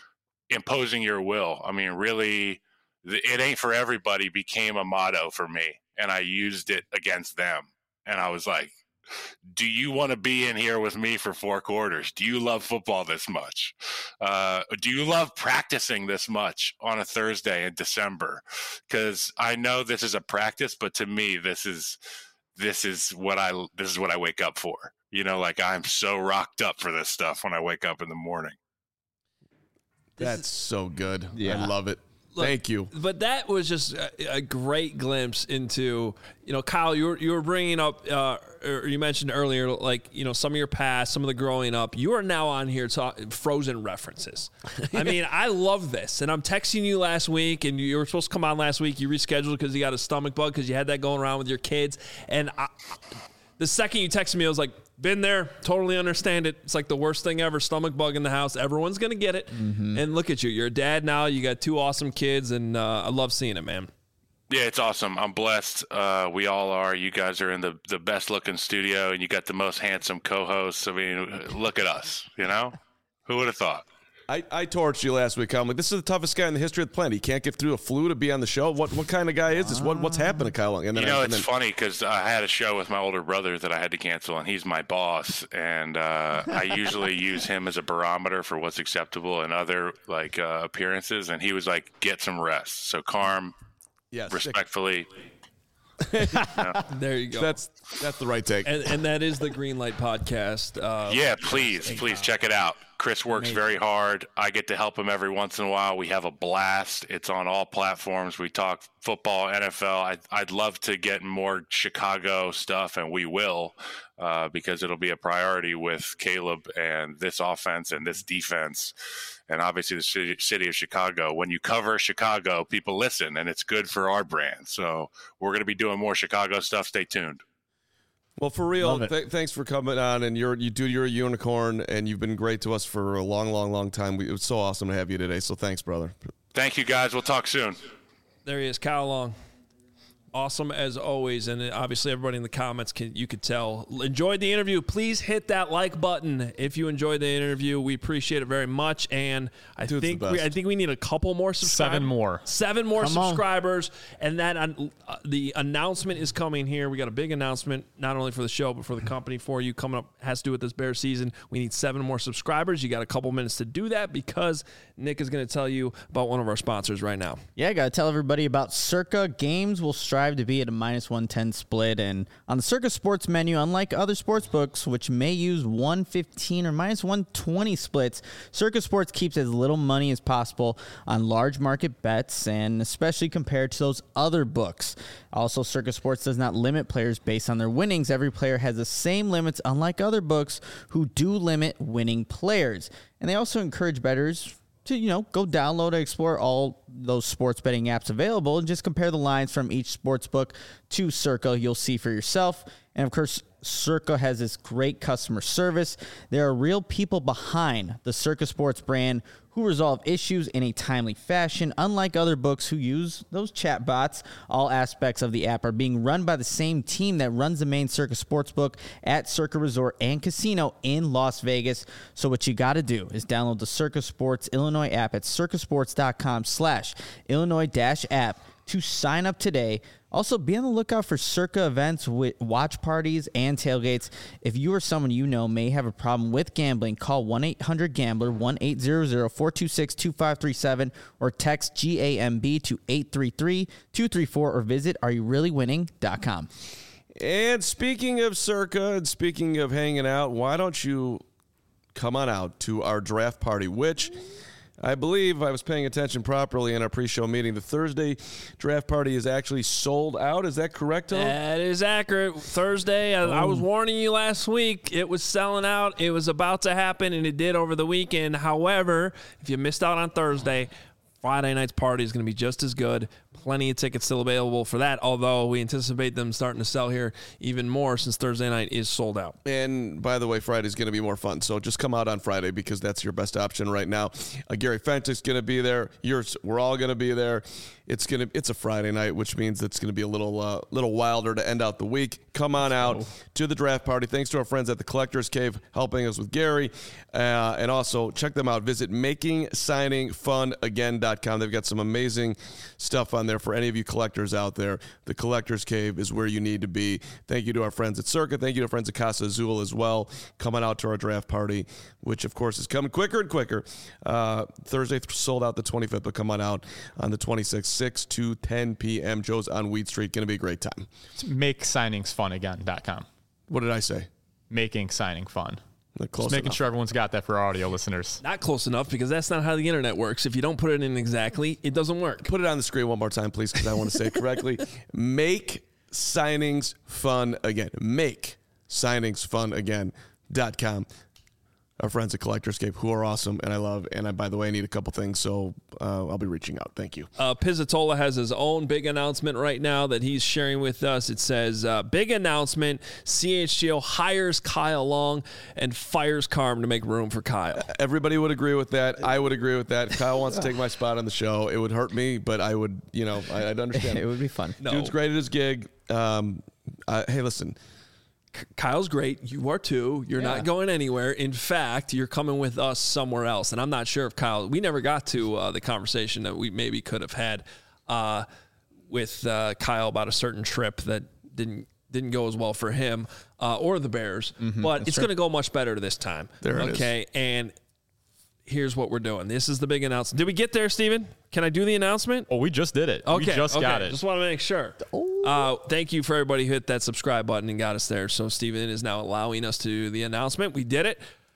imposing your will. I mean, really, it ain't for everybody became a motto for me, and I used it against them. And I was like, do you want to be in here with me for 4 quarters? Do you love football this much? Do you love practicing this much on a Thursday in December? Because I know this is a practice, but to me, this is what I wake up for. You know, like I'm so rocked up for this stuff when I wake up in the morning. That's so good. Yeah. I love it. Look, thank you. But that was just a great glimpse into, you know, Kyle, you were bringing up, or you mentioned earlier, like, you know, some of your past, some of the growing up. You are now on here talking Frozen references. I mean, I love this. And I'm texting you last week, and you were supposed to come on last week. You rescheduled because you got a stomach bug because you had that going around with your kids. And the second you texted me, I was like, been there, totally understand it. It's like the worst thing ever, stomach bug in the house. Everyone's going to get it. Mm-hmm. And look at you. You're a dad now. You got 2 awesome kids, and I love seeing it, man. Yeah, it's awesome. I'm blessed. We all are. You guys are in the best-looking studio, and you got the most handsome co-hosts. I mean, look at us, you know? Who would have thought? I torched you last week. I'm like, this is the toughest guy in the history of the planet. He can't get through a flu to be on the show. What kind of guy is this? What's happened to Kyle? And then it's funny because I had a show with my older brother that I had to cancel, and he's my boss. And I usually use him as a barometer for what's acceptable in other appearances. And he was like, get some rest. So Carm, respectfully. There you go. That's the right take. And that is the Greenlight Podcast. Please check it out. Chris works very hard. I get to help him every once in a while. We have a blast. It's on all platforms. We talk football, NFL. I'd love to get more Chicago stuff, and we will, because it'll be a priority with Caleb and this offense and this defense, and obviously the city of Chicago. When you cover Chicago, people listen, and it's good for our brand. So we're going to be doing more Chicago stuff. Stay tuned. Well, for real, thanks for coming on, and you're a unicorn, and you've been great to us for a long, long, long time. It was so awesome to have you today, so thanks, brother. Thank you, guys. We'll talk soon. There he is, Kyle Long. Awesome as always, and obviously everybody in the comments you could tell enjoyed the interview. Please hit that like button if you enjoyed the interview. We appreciate it very much, and I think we need a couple more subscribers. 7 more subscribers, and that the announcement is coming here. We got a big announcement not only for the show but for the company for you coming up. Has to do with this Bears season. We need 7 more subscribers. You got a couple minutes to do that because Nick is going to tell you about one of our sponsors right now. Yeah, I got to tell everybody about Circa. Games will strive to be at a -110 split, and on the Circa Sports menu, unlike other sports books which may use 115 or -120 splits, Circa Sports keeps as little money as possible on large market bets, and especially compared to those other books. Also, Circa Sports does not limit players based on their winnings. Every player has the same limits, unlike other books who do limit winning players. And they also encourage bettors to, go download and explore all those sports betting apps available and just compare the lines from each sports book to Circa. You'll see for yourself. And of course, Circa has this great customer service. There are real people behind the Circa Sports brand who resolve issues in a timely fashion. Unlike other books who use those chat bots, all aspects of the app are being run by the same team that runs the main Circa Sportsbook at Circa Resort and Casino in Las Vegas. So what you got to do is download the Circa Sports Illinois app at circasports.com/Illinois-app to sign up today. Also, be on the lookout for Circa events with watch parties and tailgates. If you or someone you know may have a problem with gambling, call 1-800-GAMBLER, 1-800-426-2537, or text GAMB to 833-234, or visit areyoureallywinning.com. And speaking of Circa and speaking of hanging out, why don't you come on out to our draft party, which I believe I was paying attention properly in our pre-show meeting. The Thursday draft party is actually sold out. Is that correct, Tom? That is accurate. Thursday, I was warning you last week. It was selling out. It was about to happen, and it did over the weekend. However, if you missed out on Thursday, Friday night's party is going to be just as good. Plenty of tickets still available for that, although we anticipate them starting to sell here even more since Thursday night is sold out. And by the way, Friday's going to be more fun, so just come out on Friday because that's your best option right now. Gary Fenton's going to be there. We're all going to be there. It's a Friday night, which means it's gonna be a little wilder to end out the week. Come on out to the draft party. Thanks to our friends at the Collectors Cave helping us with Gary, and also check them out. Visit MakingSigningFunAgain.com. They've got some amazing stuff on there for any of you collectors out there. The Collectors Cave is where you need to be. Thank you to our friends at Circa. Thank you to our friends at Casa Azul as well. Coming out to our draft party, which of course is coming quicker and quicker. Thursday sold out the 25th, but come on out on the 26th, 6 to 10 p.m. Joe's on Weed Street. Going to be a great time. It's MakeSigningsFunAgain.com. What did I say? Making signing fun. Close Just making enough. sure everyone's got that for our audio listeners. Not close enough, because that's not how the internet works. If you don't put it in exactly, it doesn't work. Put it on the screen one more time, please, because I want to say it correctly. Make signings fun again. Make signingsfunagain.com. Our friends at Collectors Cave, who are awesome and I love. And I, by the way, need a couple things, so I'll be reaching out. Thank you. Pizzatola has his own big announcement right now that he's sharing with us. It says, big announcement, CHGO hires Kyle Long and fires Carm to make room for Kyle. Everybody would agree with that. I would agree with that. Kyle wants to take my spot on the show. It would hurt me, but I would, I'd understand. It would be fun. No. Dude's great at his gig. Hey, listen. Kyle's great. You are too. You're not going anywhere. In fact, you're coming with us somewhere else. And I'm not sure if Kyle, we never got to the conversation that we maybe could have had with Kyle about a certain trip that didn't go as well for him or the Bears. But it's going to go much better this time. There it is. Okay. And here's what we're doing. This is the big announcement. Did we get there, Steven? Can I do the announcement? Oh, we just did it. Okay, We just got it. Just want to make sure. Thank you for everybody who hit that subscribe button and got us there. So Steven is now allowing us to do the announcement. We did it.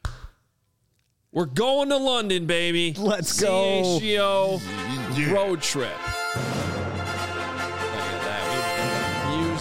We're going to London, baby. Let's go. CHGO road trip. Look at that. We got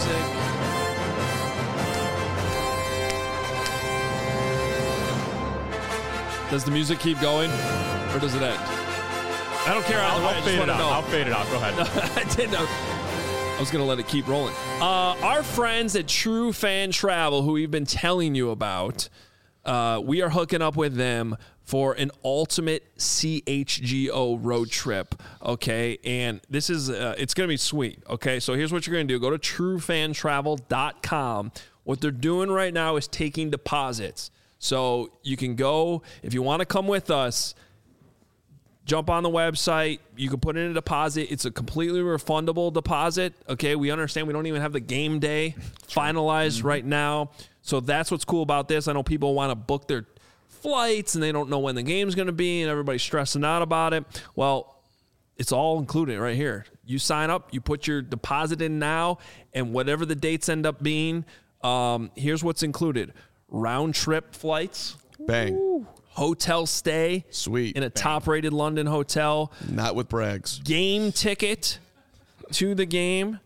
music. Does the music keep going, or does it end? I don't care. I'll fade it out. I'll fade it out. Go ahead. I didn't know. I was going to let it keep rolling. Our friends at True Fan Travel, who we've been telling you about, we are hooking up with them for an ultimate CHGO road trip, okay? And this is, it's going to be sweet, okay? So here's what you're going to do. Go to truefantravel.com. What they're doing right now is taking deposits. So you can go, if you want to come with us, jump on the website. You can put in a deposit. It's a completely refundable deposit. Okay, we understand we don't even have the game day finalized right now. So that's what's cool about this. I know people want to book their flights and they don't know when the game's going to be and everybody's stressing out about it. Well, it's all included right here. You sign up, you put your deposit in now, and whatever the dates end up being, here's what's included. Round trip flights. Bang. Woo. Hotel stay. Sweet. In a top-rated London hotel. Not with brags. Game ticket to the game.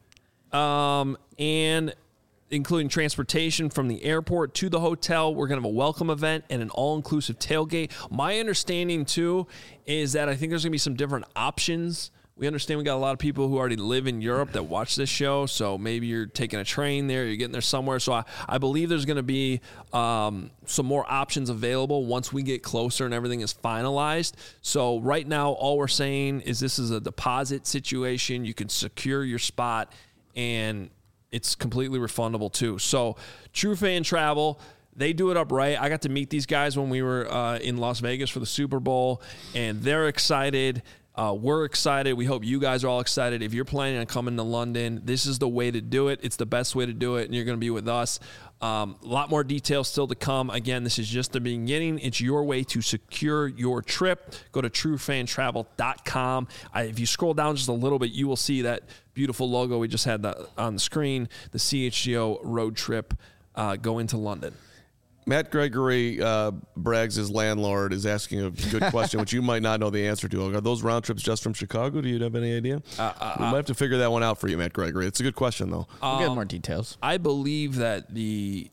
And including transportation from the airport to the hotel. We're going to have a welcome event and an all-inclusive tailgate. My understanding, too, is that I think there's going to be some different options. We understand we got a lot of people who already live in Europe that watch this show, so maybe you're taking a train there, you're getting there somewhere. So I believe there's going to be some more options available once we get closer and everything is finalized. So right now, all we're saying is this is a deposit situation. You can secure your spot, and it's completely refundable too. So True Fan Travel, they do it up right. I got to meet these guys when we were in Las Vegas for the Super Bowl, and they're excited. We're excited. We hope you guys are all excited. If you're planning on coming to London, this is the way to do it. It's the best way to do it, and you're going to be with us. A lot more details still to come. Again, this is just the beginning. It's your way to secure your trip. Go to truefantravel.com. If you scroll down just a little bit, you will see that beautiful logo we just had on the screen, the CHGO road trip going to London. Matt Gregory, Braggs' landlord, is asking a good question, which you might not know the answer to. Are those round trips just from Chicago? Do you have any idea? We might have to figure that one out for you, Matt Gregory. It's a good question, though. We'll get more details. I believe that the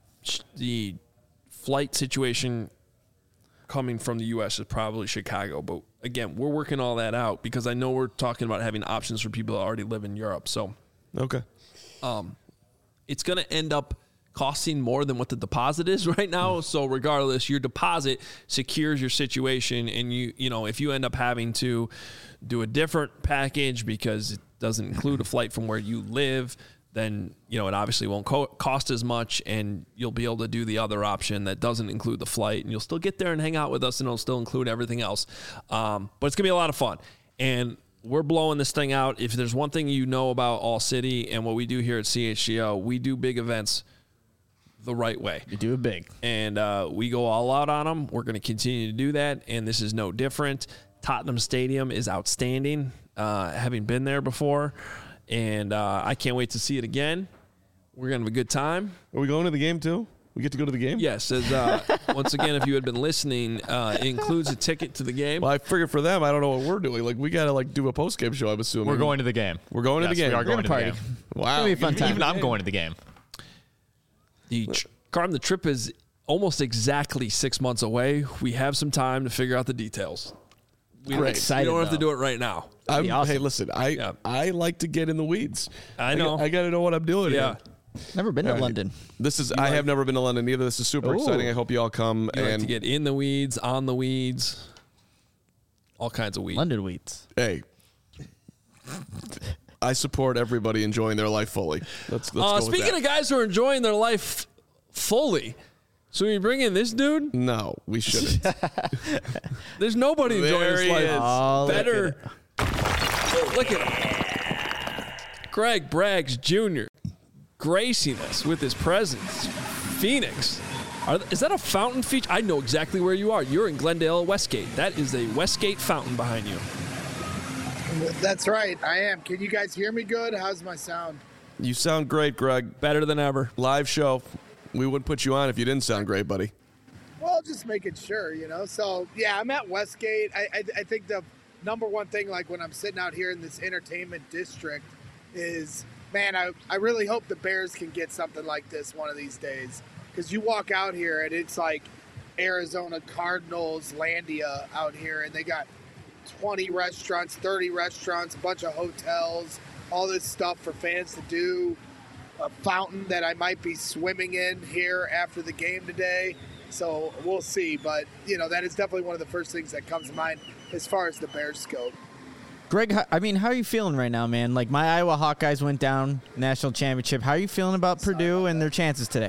flight situation coming from the U.S. is probably Chicago. But, again, we're working all that out because I know we're talking about having options for people that already live in Europe. So, okay, it's going to end up costing more than what the deposit is right now. So regardless, your deposit secures your situation. And you know, if you end up having to do a different package because it doesn't include a flight from where you live, then, you know, it obviously won't cost as much, and you'll be able to do the other option that doesn't include the flight, and you'll still get there and hang out with us, and it'll still include everything else. But it's going to be a lot of fun. And we're blowing this thing out. If there's one thing you know about All City and what we do here at CHGO, we do big events the right way. You do it big. And we go all out on them. We're going to continue to do that, and this is no different. Tottenham Stadium is outstanding, having been there before, and I can't wait to see it again. We're going to have a good time. Are we going to the game too? We get to go to the game? Yes. As, once again, if you had been listening, it includes a ticket to the game. Well, I figured for them, I don't know what we're doing. Like, we got to do a post-game show, I'm assuming. We're going to the game. We're going to the game. We are going to the game. Wow. It's going to be a fun time. Even I'm going to the game. The trip is almost exactly 6 months away. We have some time to figure out the details. I'm excited. We don't have to do it right now. Awesome. Hey, listen, I like to get in the weeds. I know. I got to know what I'm doing. Yeah. Never been to London. I have never been to London either. This is super exciting. I hope you all come. You like to get in the weeds, on the weeds, all kinds of weeds. London weeds. Hey, I support everybody enjoying their life fully. Let's go with speaking that. of guys who are enjoying their life fully, so we bring in this dude? No, we shouldn't. There's nobody enjoying his life better. Look at Greg Braggs Jr. gracing us with his presence. Phoenix. Is that a fountain feature? I know exactly where you are. You're in Glendale, Westgate. That is a Westgate fountain behind you. That's right. I am. Can you guys hear me good? How's my sound? You sound great, Greg. Better than ever. Live show. We wouldn't put you on if you didn't sound great, buddy. Well, just making sure, you know. So, yeah, I'm at Westgate. I think the number one thing, like when I'm sitting out here in this entertainment district, is, man, I really hope the Bears can get something like this one of these days. Because you walk out here and it's like Arizona Cardinals Landia out here, and they got 20 restaurants, 30 restaurants, a bunch of hotels, all this stuff for fans to do. A fountain that I might be swimming in here after the game today. So we'll see. But, you know, that is definitely one of the first things that comes to mind as far as the Bears go. Greg, how are you feeling right now, man? Like, my Iowa Hawkeyes went down national championship. How are you feeling about Purdue and their chances today?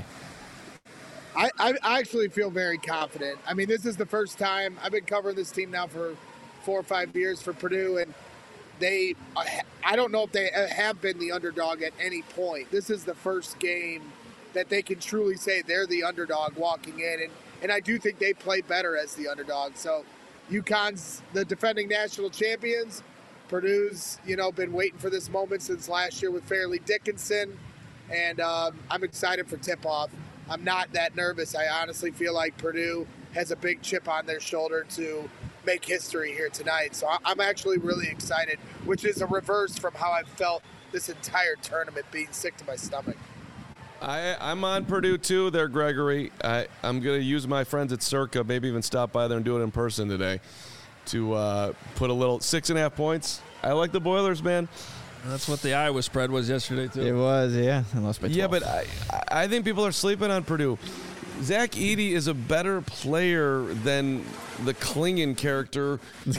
I actually feel very confident. I mean, this is the first time I've been covering this team now for 4 or 5 years for Purdue, and I don't know if they have been the underdog at any point. This is the first game that they can truly say they're the underdog walking in, and I do think they play better as the underdog. So UConn's the defending national champions. Purdue's, been waiting for this moment since last year with Fairleigh Dickinson, and I'm excited for tip-off. I'm not that nervous. I honestly feel like Purdue has a big chip on their shoulder to make history here tonight. So I'm actually really excited, which is a reverse from how I've felt this entire tournament, being sick to my stomach. I'm on Purdue too there, Gregory. I'm going to use my friends at Circa, maybe even stop by there and do it in person today to put a little 6.5 points. I like the Boilers, man. That's what the Iowa spread was yesterday, too. It was, yeah. I lost by 12. Yeah, but I think people are sleeping on Purdue. Zach Edey is a better player than the Klingon character.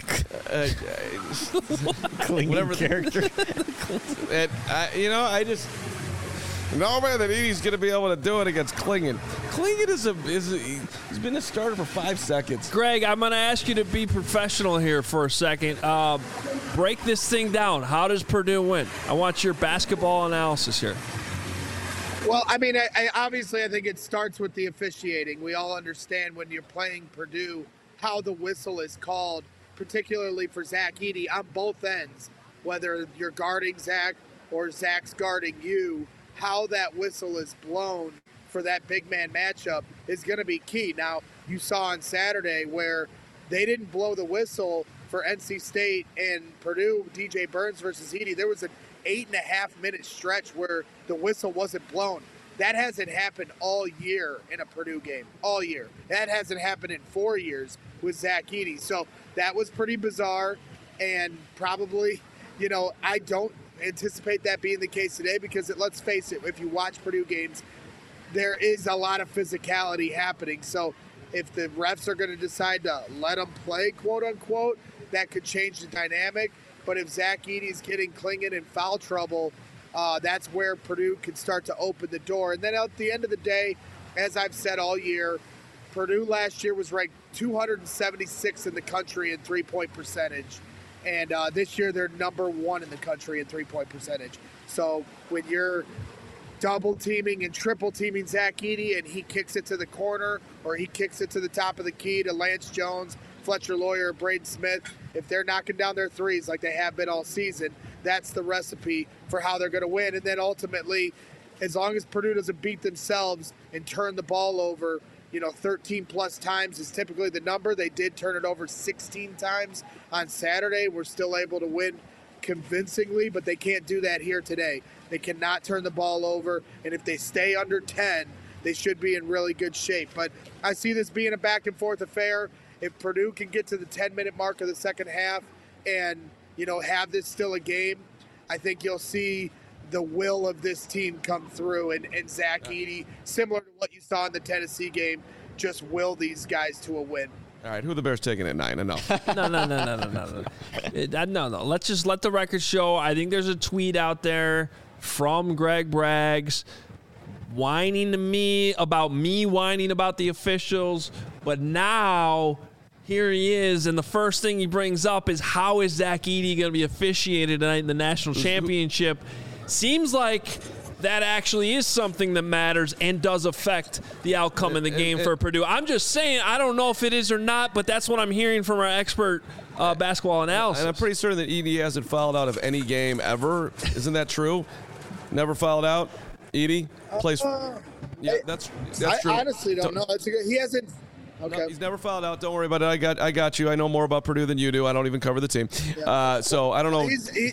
Klingon character. And I just no man that Edey's going to be able to do it against Klingon. Klingon he's been a starter for 5 seconds. Greg, I'm going to ask you to be professional here for a second. Break this thing down. How does Purdue win? I want your basketball analysis here. Well, I mean, I think it starts with the officiating. We all understand when you're playing Purdue how the whistle is called, particularly for Zach Edey on both ends. Whether you're guarding Zach or Zach's guarding you, how that whistle is blown for that big man matchup is going to be key. Now, you saw on Saturday where they didn't blow the whistle for NC State and Purdue, DJ Burns versus Edey. There was an 8.5-minute stretch where the whistle wasn't blown. That hasn't happened all year in a Purdue game, all year. That hasn't happened in 4 years with Zach Edey. So that was pretty bizarre, and probably, I don't anticipate that being the case today because let's face it, if you watch Purdue games, there is a lot of physicality happening. So if the refs are going to decide to let them play, quote unquote, that could change the dynamic. But if Zach Edey's getting Clingan in foul trouble, that's where Purdue can start to open the door. And then at the end of the day, as I've said all year, Purdue last year was ranked 276 in the country in three-point percentage. And this year they're number 1 in the country in three-point percentage. So when you're double teaming and triple teaming Zach Edey and he kicks it to the corner or he kicks it to the top of the key to Lance Jones, Fletcher Loyer, Braden Smith, if they're knocking down their threes like they have been all season, that's the recipe for how they're going to win. And then ultimately, as long as Purdue doesn't beat themselves and turn the ball over, 13 plus times is typically the number. They did turn it over 16 times on Saturday. We're still able to win convincingly, but they can't do that here today. They cannot turn the ball over, and if they stay under 10, they should be in really good shape. But I see this being a back-and-forth affair. If Purdue can get to the 10-minute mark of the second half and, have this still a game, I think you'll see the will of this team come through, and Zach Edey, similar to what you saw in the Tennessee game, just will these guys to a win. All right, who are the Bears taking at 9? Enough. No. Let's just let the record show. I think there's a tweet out there from Greg Braggs whining to me about the officials, but now here he is, and the first thing he brings up is how is Zach Edey going to be officiated tonight in the national championship? Seems like that actually is something that matters and does affect the outcome in the game for Purdue. I'm just saying, I don't know if it is or not, but that's what I'm hearing from our expert basketball analysis. And I'm pretty certain that Edey hasn't fouled out of any game ever. Isn't that true? Never fouled out? Edey plays. That's true. I honestly don't know. He hasn't. Okay. No, he's never fouled out. Don't worry about it. I got you. I know more about Purdue than you do. I don't even cover the team. Yeah. So I don't know.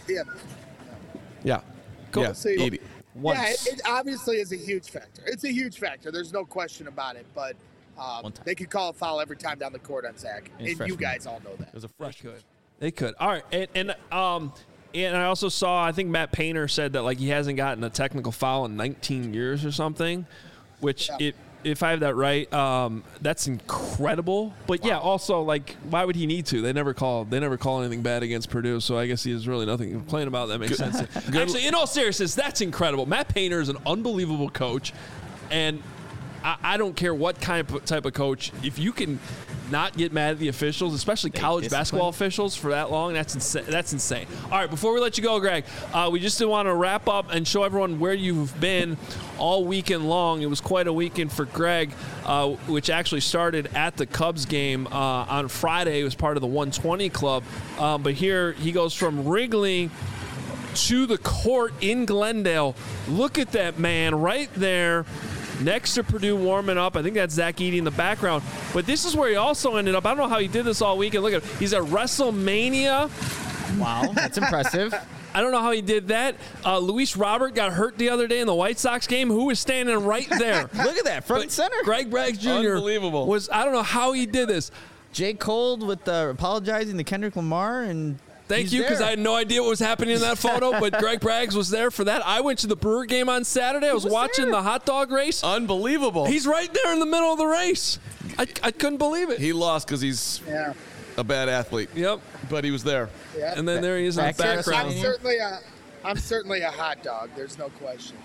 Yeah. Cool. Yeah. Edey. It obviously is a huge factor. It's a huge factor. There's no question about it. But they could call a foul every time down the court on Zach, and you guys all know that. It was a freshman. They could. All right, and I also saw, I think Matt Painter said that he hasn't gotten a technical foul in 19 years or something, which if I have that right, that's incredible. But also why would he need to? They never call anything bad against Purdue, so I guess he has really nothing to complain about. That makes sense. Actually, in all seriousness, that's incredible. Matt Painter is an unbelievable coach, and I don't care what type of coach. If you can not get mad at the officials, especially college basketball officials, for that long, that's insane. All right, before we let you go, Greg, we just want to wrap up and show everyone where you've been all weekend long. It was quite a weekend for Greg, which actually started at the Cubs game on Friday. It was part of the 120 Club. But here he goes from Wrigley to the court in Glendale. Look at that man right there next to Purdue warming up. I think that's Zach Edey in the background. But this is where he also ended up. I don't know how he did this all weekend. Look at him. He's at WrestleMania. Wow, that's impressive. I don't know how he did that. Luis Robert got hurt the other day in the White Sox game. Who was standing right there? Look at that, front and center. Greg Braggs Jr. Unbelievable. I don't know how he did this. J. Cole with apologizing to Kendrick Lamar and... Thank you, because I had no idea what was happening in that photo, but Greg Braggs was there for that. I went to the Brewer game on Saturday. I was watching the hot dog race. Unbelievable. He's right there in the middle of the race. I couldn't believe it. He lost because he's a bad athlete. Yep. But he was there. Yep. And then there he is in the background. I'm certainly a hot dog. There's no question.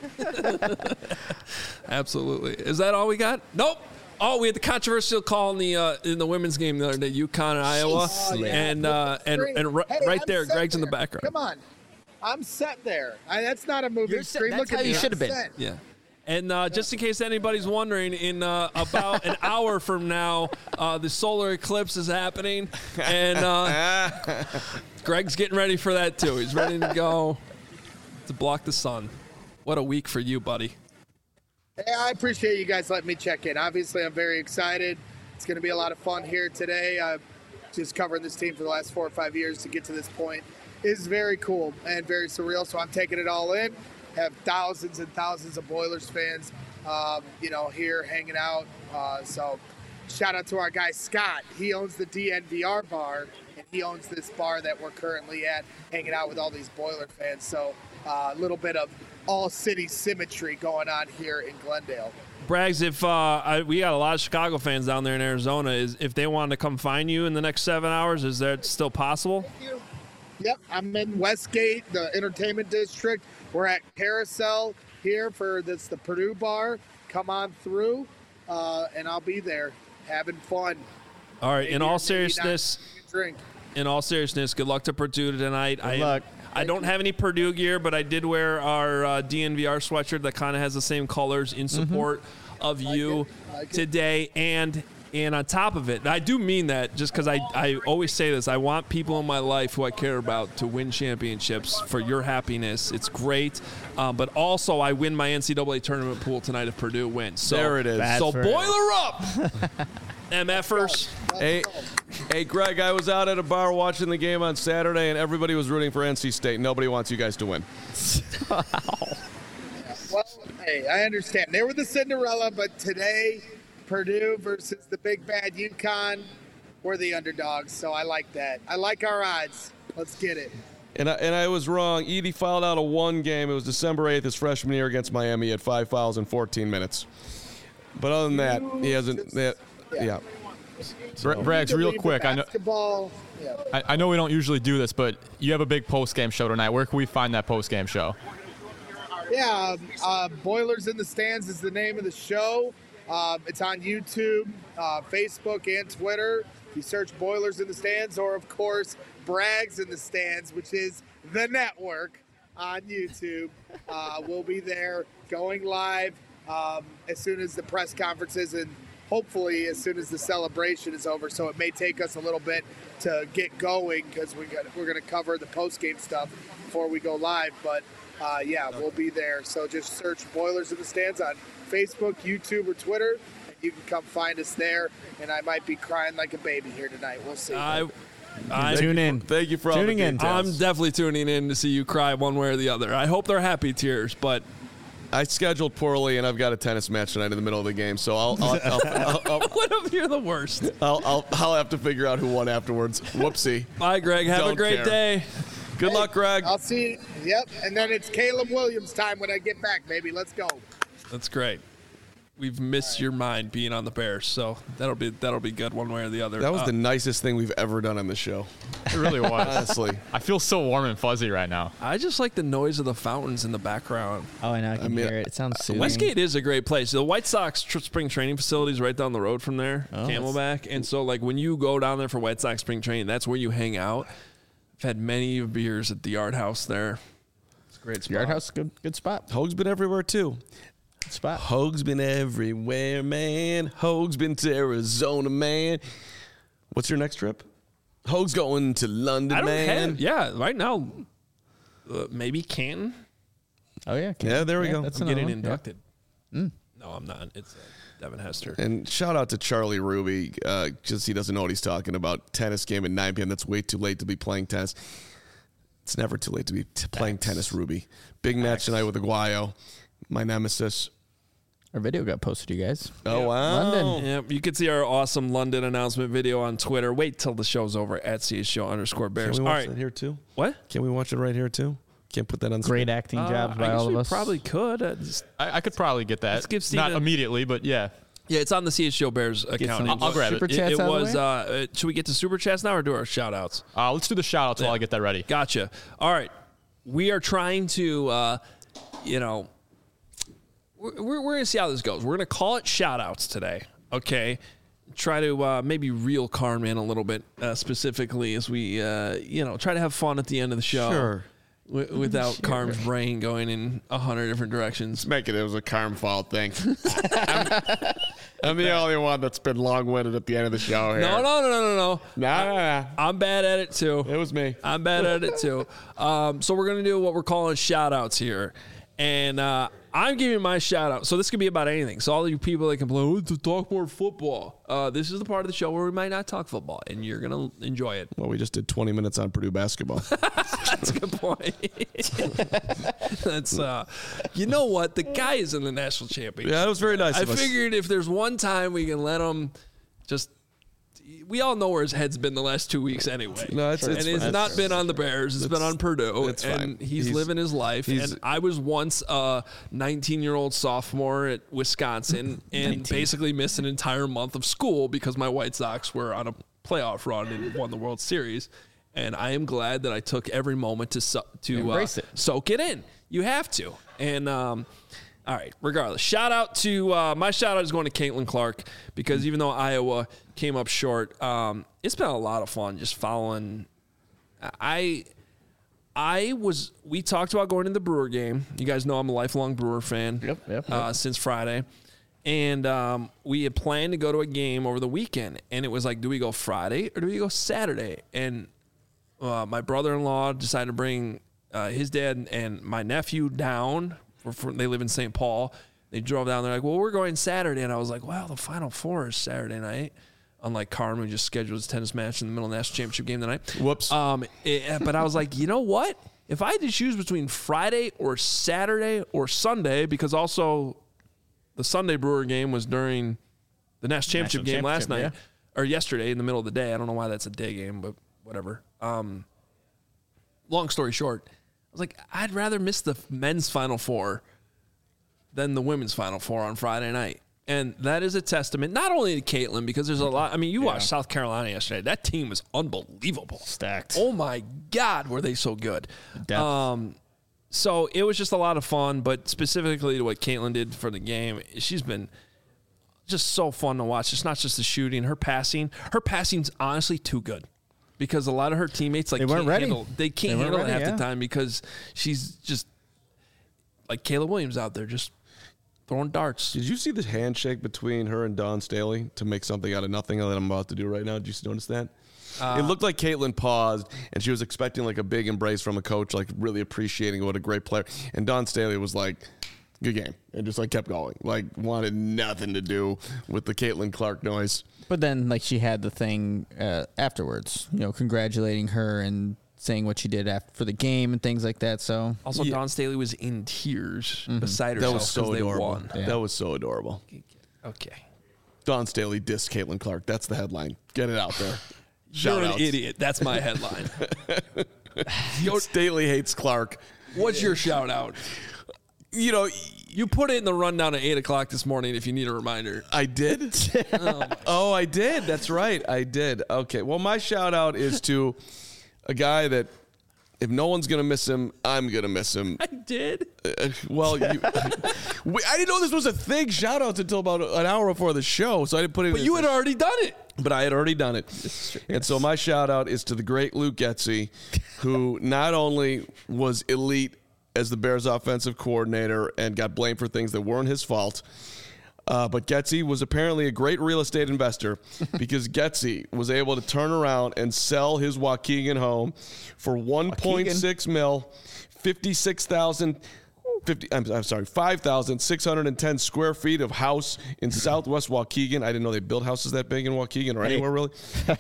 Absolutely. Is that all we got? Nope. Oh, we had the controversial call in the women's game the other day, UConn and Iowa, and right there, Greg's in the background. Come on, I'm set there. That's not a moving screen. That's how you should have been. Yeah. And just in case anybody's wondering, in about an hour from now, the solar eclipse is happening, and Greg's getting ready for that too. He's ready to go to block the sun. What a week for you, buddy. Hey, I appreciate you guys letting me check in. Obviously, I'm very excited. It's going to be a lot of fun here today. Just covering this team for the last 4 or 5 years to get to this point is very cool and very surreal. So I'm taking it all in. Have thousands and thousands of Boilers fans, here hanging out. So shout out to our guy Scott. He owns the DNVR bar, and he owns this bar that we're currently at, hanging out with all these Boiler fans. So a little bit of all-city symmetry going on here in Glendale. Braggs, if we got a lot of Chicago fans down there in Arizona, if they wanted to come find you in the next 7 hours, is that still possible? Yep, I'm in Westgate, the entertainment district. We're at Carousel here for the Purdue bar. Come on through, and I'll be there having fun. All right. In all seriousness, good luck to Purdue tonight. Good luck. I don't have any Purdue gear, but I did wear our DNVR sweatshirt that kind of has the same colors in support of you today. And on top of it, I do mean that just because I always say this, I want people in my life who I care about to win championships for your happiness. It's great. But also, I win my NCAA tournament pool tonight if Purdue wins. So, there it is. So boiler up, MFers. Hey, Greg, I was out at a bar watching the game on Saturday, and everybody was rooting for NC State. Nobody wants you guys to win. Well, hey, I understand. They were the Cinderella, but today, Purdue versus the big bad UConn, we're the underdogs, so I like that. I like our odds. Let's get it. And I was wrong. Edey fouled out of one game. It was December 8th, his freshman year against Miami. He had 5 fouls in 14 minutes. But other than that, he hasn't. Yeah. Braggs, real quick. I know we don't usually do this, but you have a big post-game show tonight. Where can we find that post-game show? Yeah, Boilers in the Stands is the name of the show. It's on YouTube, Facebook, and Twitter. You search Boilers in the Stands, or, of course, Braggs in the Stands, which is the network on YouTube. We'll be there going live as soon as the press conferences and hopefully as soon as the celebration is over. So it may take us a little bit to get going because we're going to cover the post-game stuff before we go live. But, we'll be there. So just search Boilers in the Stands on Facebook, YouTube, or Twitter. And you can come find us there. And I might be crying like a baby here tonight. We'll see. Tune in. Thank you for tuning in. I'm definitely tuning in to see you cry one way or the other. I hope they're happy tears, but I scheduled poorly, and I've got a tennis match tonight in the middle of the game. So I'll what if you're the worst? I'll have to figure out who won afterwards. Whoopsie. Bye, Greg. Have a great day. Good luck, Greg. I'll see you. Yep. And then it's Caleb Williams time when I get back, baby. Let's go. That's great. We've missed your mind being on the Bears, so that'll be good one way or the other. That was the nicest thing we've ever done on the show. It really was. Honestly. I feel so warm and fuzzy right now. I just like the noise of the fountains in the background. Oh, I know. I can hear it. It sounds soothing. Westgate is a great place. The White Sox spring training facility is right down the road from there, Camelback. And so, like, when you go down there for White Sox spring training, that's where you hang out. I've had many beers at the Yard House there. It's a great spot. Yard House, good spot. Hoag's been everywhere, too. Spot. Hoag's been everywhere, man. Hoag's been to Arizona, man. What's your next trip? Hoag's going to London, man. Right now, maybe Canton. Oh, yeah. Yeah, there we go. I'm getting inducted. No, I'm not. It's Devin Hester. And shout out to Charlie Ruby, because he doesn't know what he's talking about. Tennis game at 9 p.m. That's way too late to be playing tennis. It's never too late to be playing tennis, Ruby. Big match tonight with Aguayo, my nemesis. Our video got posted, you guys. Oh, wow. London. Yep, you can see our awesome London announcement video on Twitter. Wait till the show's over at CSShow_Bears. Can we watch that here, too? What? Can we watch it right here, too? Can't put that on Great screen. acting jobs by all of us. Probably could. I could probably get that. Let's give Steven, not immediately, but yeah. Yeah, it's on the CS Show Bears account. I'll grab it. It was. Should we get to Super Chats now or do our shout outs? Let's do the shout outs while I get that ready. Gotcha. All right. We are trying to, we're going to see how this goes. We're going to call it shout outs today. Okay. Try to maybe reel Carm in a little bit specifically as we, try to have fun at the end of the show. Sure. Without Carm's brain going in 100 different directions. Make it was a Carm fault thing. I'm the only one that's been long-winded at the end of the show here. No. Nah. I'm bad at it, too. It was me. I'm bad at it, too. So we're going to do what we're calling shout-outs here. And I'm giving my shout-out. So this could be about anything. So all you people that complain, to talk more football. This is the part of the show where we might not talk football, and you're going to enjoy it. Well, we just did 20 minutes on Purdue basketball. That's a good point. That's, you know what? The guy is in the national championship. Yeah, that was very nice I of us. figured if there's one time we can let him just, we all know where his head's been the last 2 weeks anyway. No, it's not been on the Bears. It's been on Purdue. It's and fine. he's living his life. And I was once a 19-year-old sophomore at Wisconsin and basically missed an entire month of school because my White Sox were on a playoff run and won the World Series. And I am glad that I took every moment to embrace it. Soak it in. You have to. And all right, regardless, shout out to my shout out is going to Caitlin Clark because even though Iowa came up short, it's been a lot of fun just following. We talked about going to the Brewer game. You guys know I'm a lifelong Brewer fan. Yep. Since Friday. And we had planned to go to a game over the weekend. And it was like, do we go Friday or do we go Saturday? And my brother-in-law decided to bring his dad and my nephew down. They live in St. Paul. They drove down. They're like, well, we're going Saturday. And I was like, well, the Final Four is Saturday night. Unlike Carmen, who just scheduled his tennis match in the middle of the national championship game tonight. Whoops. But I was like, you know what? If I had to choose between Friday or Saturday or Sunday, because also the Sunday Brewer game was during the national championship game last night, or yesterday in the middle of the day. I don't know why that's a day game, but whatever. Long story short, I was like, I'd rather miss the men's Final Four than the women's Final Four on Friday night. And that is a testament, not only to Caitlin, because there's a lot. I mean, you watched South Carolina yesterday. That team was unbelievable. Stacked. Oh, my God, were they so good. So it was just a lot of fun, but specifically to what Caitlin did for the game, she's been just so fun to watch. It's not just the shooting. Her passing's honestly too good. Because a lot of her teammates they can't handle it half the time because she's just like Kayla Williams out there just throwing darts. Did you see the handshake between her and Dawn Staley to make something out of nothing that I'm about to do right now? Did you notice that? It looked like Caitlin paused and she was expecting like a big embrace from a coach, like really appreciating what a great player. And Dawn Staley was like, good game. And just like kept going. Like wanted nothing to do with the Caitlin Clark noise. But then like she had the thing afterwards, congratulating her and saying what she did for the game and things like that. So also Dawn Staley was in tears beside herself. That was so adorable. Won. Yeah. That was so adorable. Okay. Dawn Staley dissed Caitlin Clark. That's the headline. Get it out there. You're an idiot. That's my headline. Staley hates Clark. What's your shout out? You put it in the rundown at 8 o'clock this morning if you need a reminder. I did? Oh, I did. That's right. I did. Okay. Well, my shout out is to a guy that if no one's going to miss him, I'm going to miss him. I did? I didn't know this was a thing. Shout outs until about an hour before the show, so I didn't put it in. But you had already done it. But I had already done it. And so my shout out is to the great Luke Getsy, who not only was elite as the Bears offensive coordinator and got blamed for things that weren't his fault. But Getsy was apparently a great real estate investor because Getsy was able to turn around and sell his Waukegan home for $1.6 million, 5,610 square feet of house in Southwest Waukegan. I didn't know they built houses that big in Waukegan or anywhere really.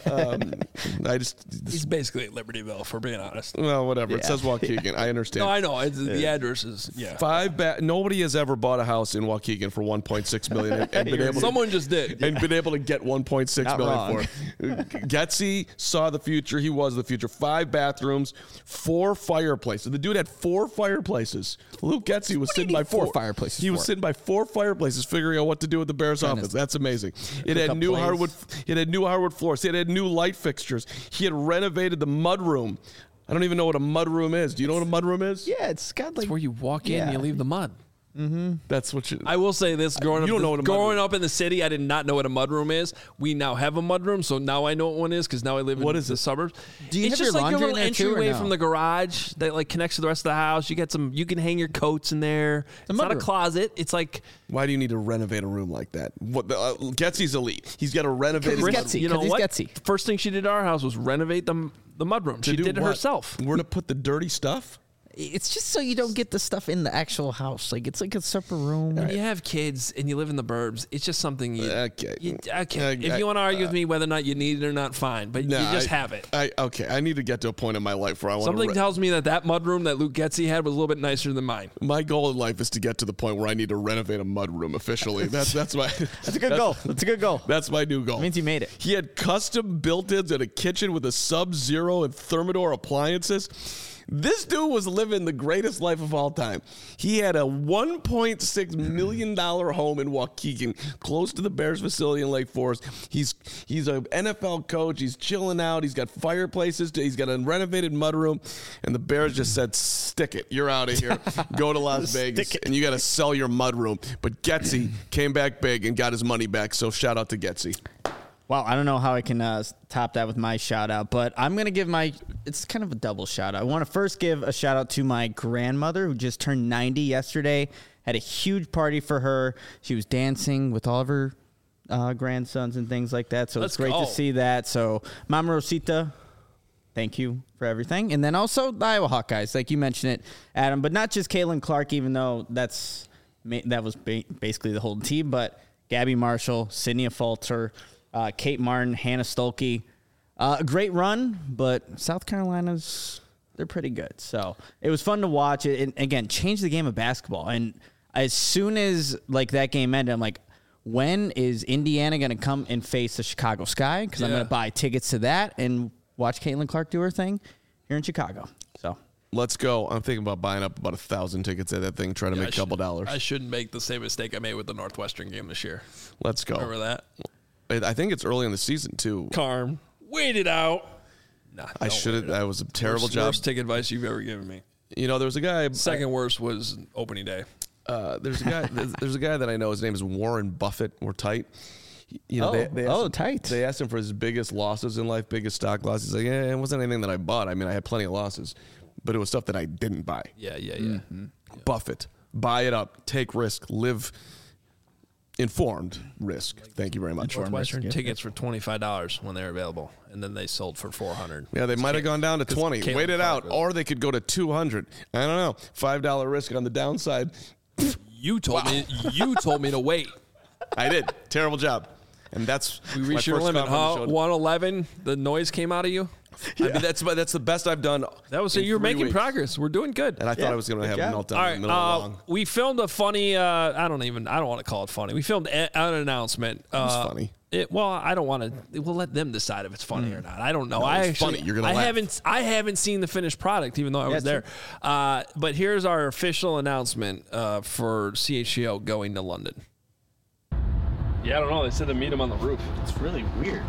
He's basically at Libertyville, for being honest. Well, whatever. Yeah. It says Waukegan. I understand. No, I know. The address is Nobody has ever bought a house in Waukegan for $1.6 million and been able. Someone just did and been able to get $1.6 million for it. Getsy saw the future. He was the future. 5 bathrooms, 4 fireplaces. The dude had 4 fireplaces. Luke Getsy was sitting by 4 fireplaces. He was sitting by 4 fireplaces, figuring out what to do with the Bears offense. That's amazing. It had new hardwood. It had new hardwood floors. It had new light fixtures. He had renovated the mud room. I don't even know what a mud room is. Do you know what a mud room is? Yeah, it's got like it's where you walk in and you leave the mud. Mm-hmm. That's what you. I will say this: growing up in the city, I did not know what a mudroom is. We now have a mudroom, so now I know what one is because now I live in the suburbs. Do you it's have just your like a laundry little entryway from the garage that like connects to the rest of the house. You get some. You can hang your coats in there. It's not a closet. It's like. Why do you need to renovate a room like that? Getsy's elite. He's got to renovate. You know what? Getsy. The first thing she did at our house was renovate the mudroom. She did it herself. Where to put the dirty stuff? It's just so you don't get the stuff in the actual house. Like it's like a separate room. When you have kids and you live in the burbs, it's just something you. Okay. If you want to argue with me whether or not you need it or not, fine. But you just have it. I need to get to a point in my life where I want something tells me that mudroom that Luke Getsy had was a little bit nicer than mine. My goal in life is to get to the point where I need to renovate a mudroom officially. That's my. That's a good goal. That's a good goal. That's my new goal. It means you made it. He had custom built-ins and a kitchen with a Sub-Zero and Thermador appliances. This dude was living the greatest life of all time. He had a $1.6 million home in Waukegan, close to the Bears facility in Lake Forest. He's an NFL coach. He's chilling out. He's got fireplaces. He's got a renovated mudroom. And the Bears just said, stick it. You're out of here. Go to Las Vegas. And you got to sell your mudroom. But Getsy came back big and got his money back. So shout out to Getsy. Well, I don't know how I can top that with my shout out, but I'm going to give it's kind of a double shout out. I want to first give a shout out to my grandmother who just turned 90 yesterday. Had a huge party for her. She was dancing with all of her grandsons and things like that. So it's great to see that. So Mama Rosita, thank you for everything. And then also the Iowa Hawkeyes, like you mentioned it, Adam, but not just Caitlin Clark, even though that was basically the whole team, but Gabby Marshall, Sydney Falter, Kate Martin, Hannah Stolke. A great run, but South Carolina's, they're pretty good. So it was fun to watch it. And again, change the game of basketball. And as soon as like that game ended, I'm like, when is Indiana going to come and face the Chicago Sky? Because I'm going to buy tickets to that and watch Caitlin Clark do her thing here in Chicago. So let's go. I'm thinking about buying up about 1,000 tickets at that thing, trying to make a couple dollars. I shouldn't make the same mistake I made with the Northwestern game this year. Let's go. Remember that? I think it's early in the season, too. Carm, wait it out. Nah, I should have. That was a terrible job. Worst ticket advice you've ever given me. You know, there was a guy. Second worst was opening day. There's a guy. There's a guy that I know. His name is Warren Buffett, or Tight. You know, Tight. They asked him for his biggest losses in life, biggest stock losses. He's like, it wasn't anything that I bought. I mean, I had plenty of losses, but it was stuff that I didn't buy. Yeah. Mm-hmm. Buffett, buy it up, take risk, live. Informed risk. Thank you very much. Northwestern tickets for $25 when they're available, and then they sold for $400. Yeah, they might have gone down to 20. Wait it out, or they could go to 200. I don't know. $5 risk on the downside. You told me. You told me to wait. I did. Terrible job. And that's we reached your limit. 111. The noise came out of you. Yeah. I mean, that's the best I've done. That was you're making progress. We're doing good. And I thought I was going to have a meltdown in the middle of the long. We filmed a funny. I don't want to call it funny. We filmed an announcement. It was funny. I don't want to. We'll let them decide if it's funny or not. I don't know. It's funny. You're gonna laugh. I haven't seen the finished product, even though I was there. But here's our official announcement for CHGO going to London. Yeah, I don't know. They said to meet him on the roof. It's really weird.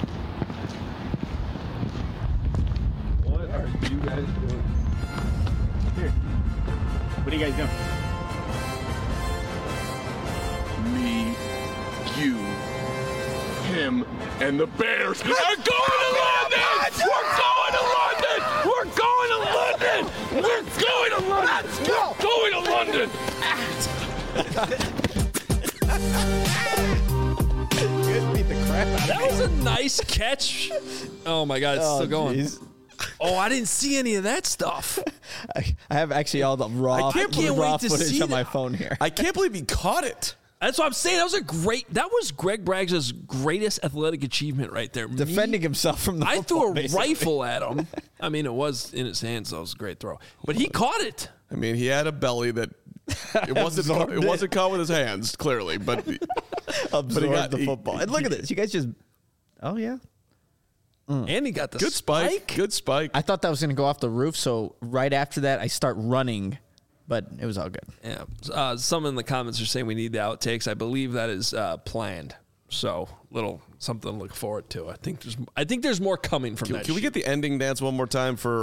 What are you guys doing? Here. What are you guys doing? Me, you, him, and the Bears are going to London! We're going to London! We're going to London! We're going to London! Let's go! We're going to London! Beat the crap out of That was a nice catch. Oh my God, it's still going. Geez. Oh, I didn't see any of that stuff. I have actually all the raw footage on my phone here. I can't believe he caught it. That's what I'm saying. That was Greg Braggs' greatest athletic achievement right there. Defending himself from the I football, threw a rifle at him. I mean, it was in his hands, so it was a great throw. But he caught it. I mean, he had a belly that it wasn't caught with his hands, clearly, but absorbed the football. And look at this. You guys just and he got the good spike. Good spike. I thought that was going to go off the roof, so right after that, I start running, but it was all good. Yeah. Some in the comments are saying we need the outtakes. I believe that is planned. So something to look forward to. I think there's more coming from that. Can we get the ending dance one more time for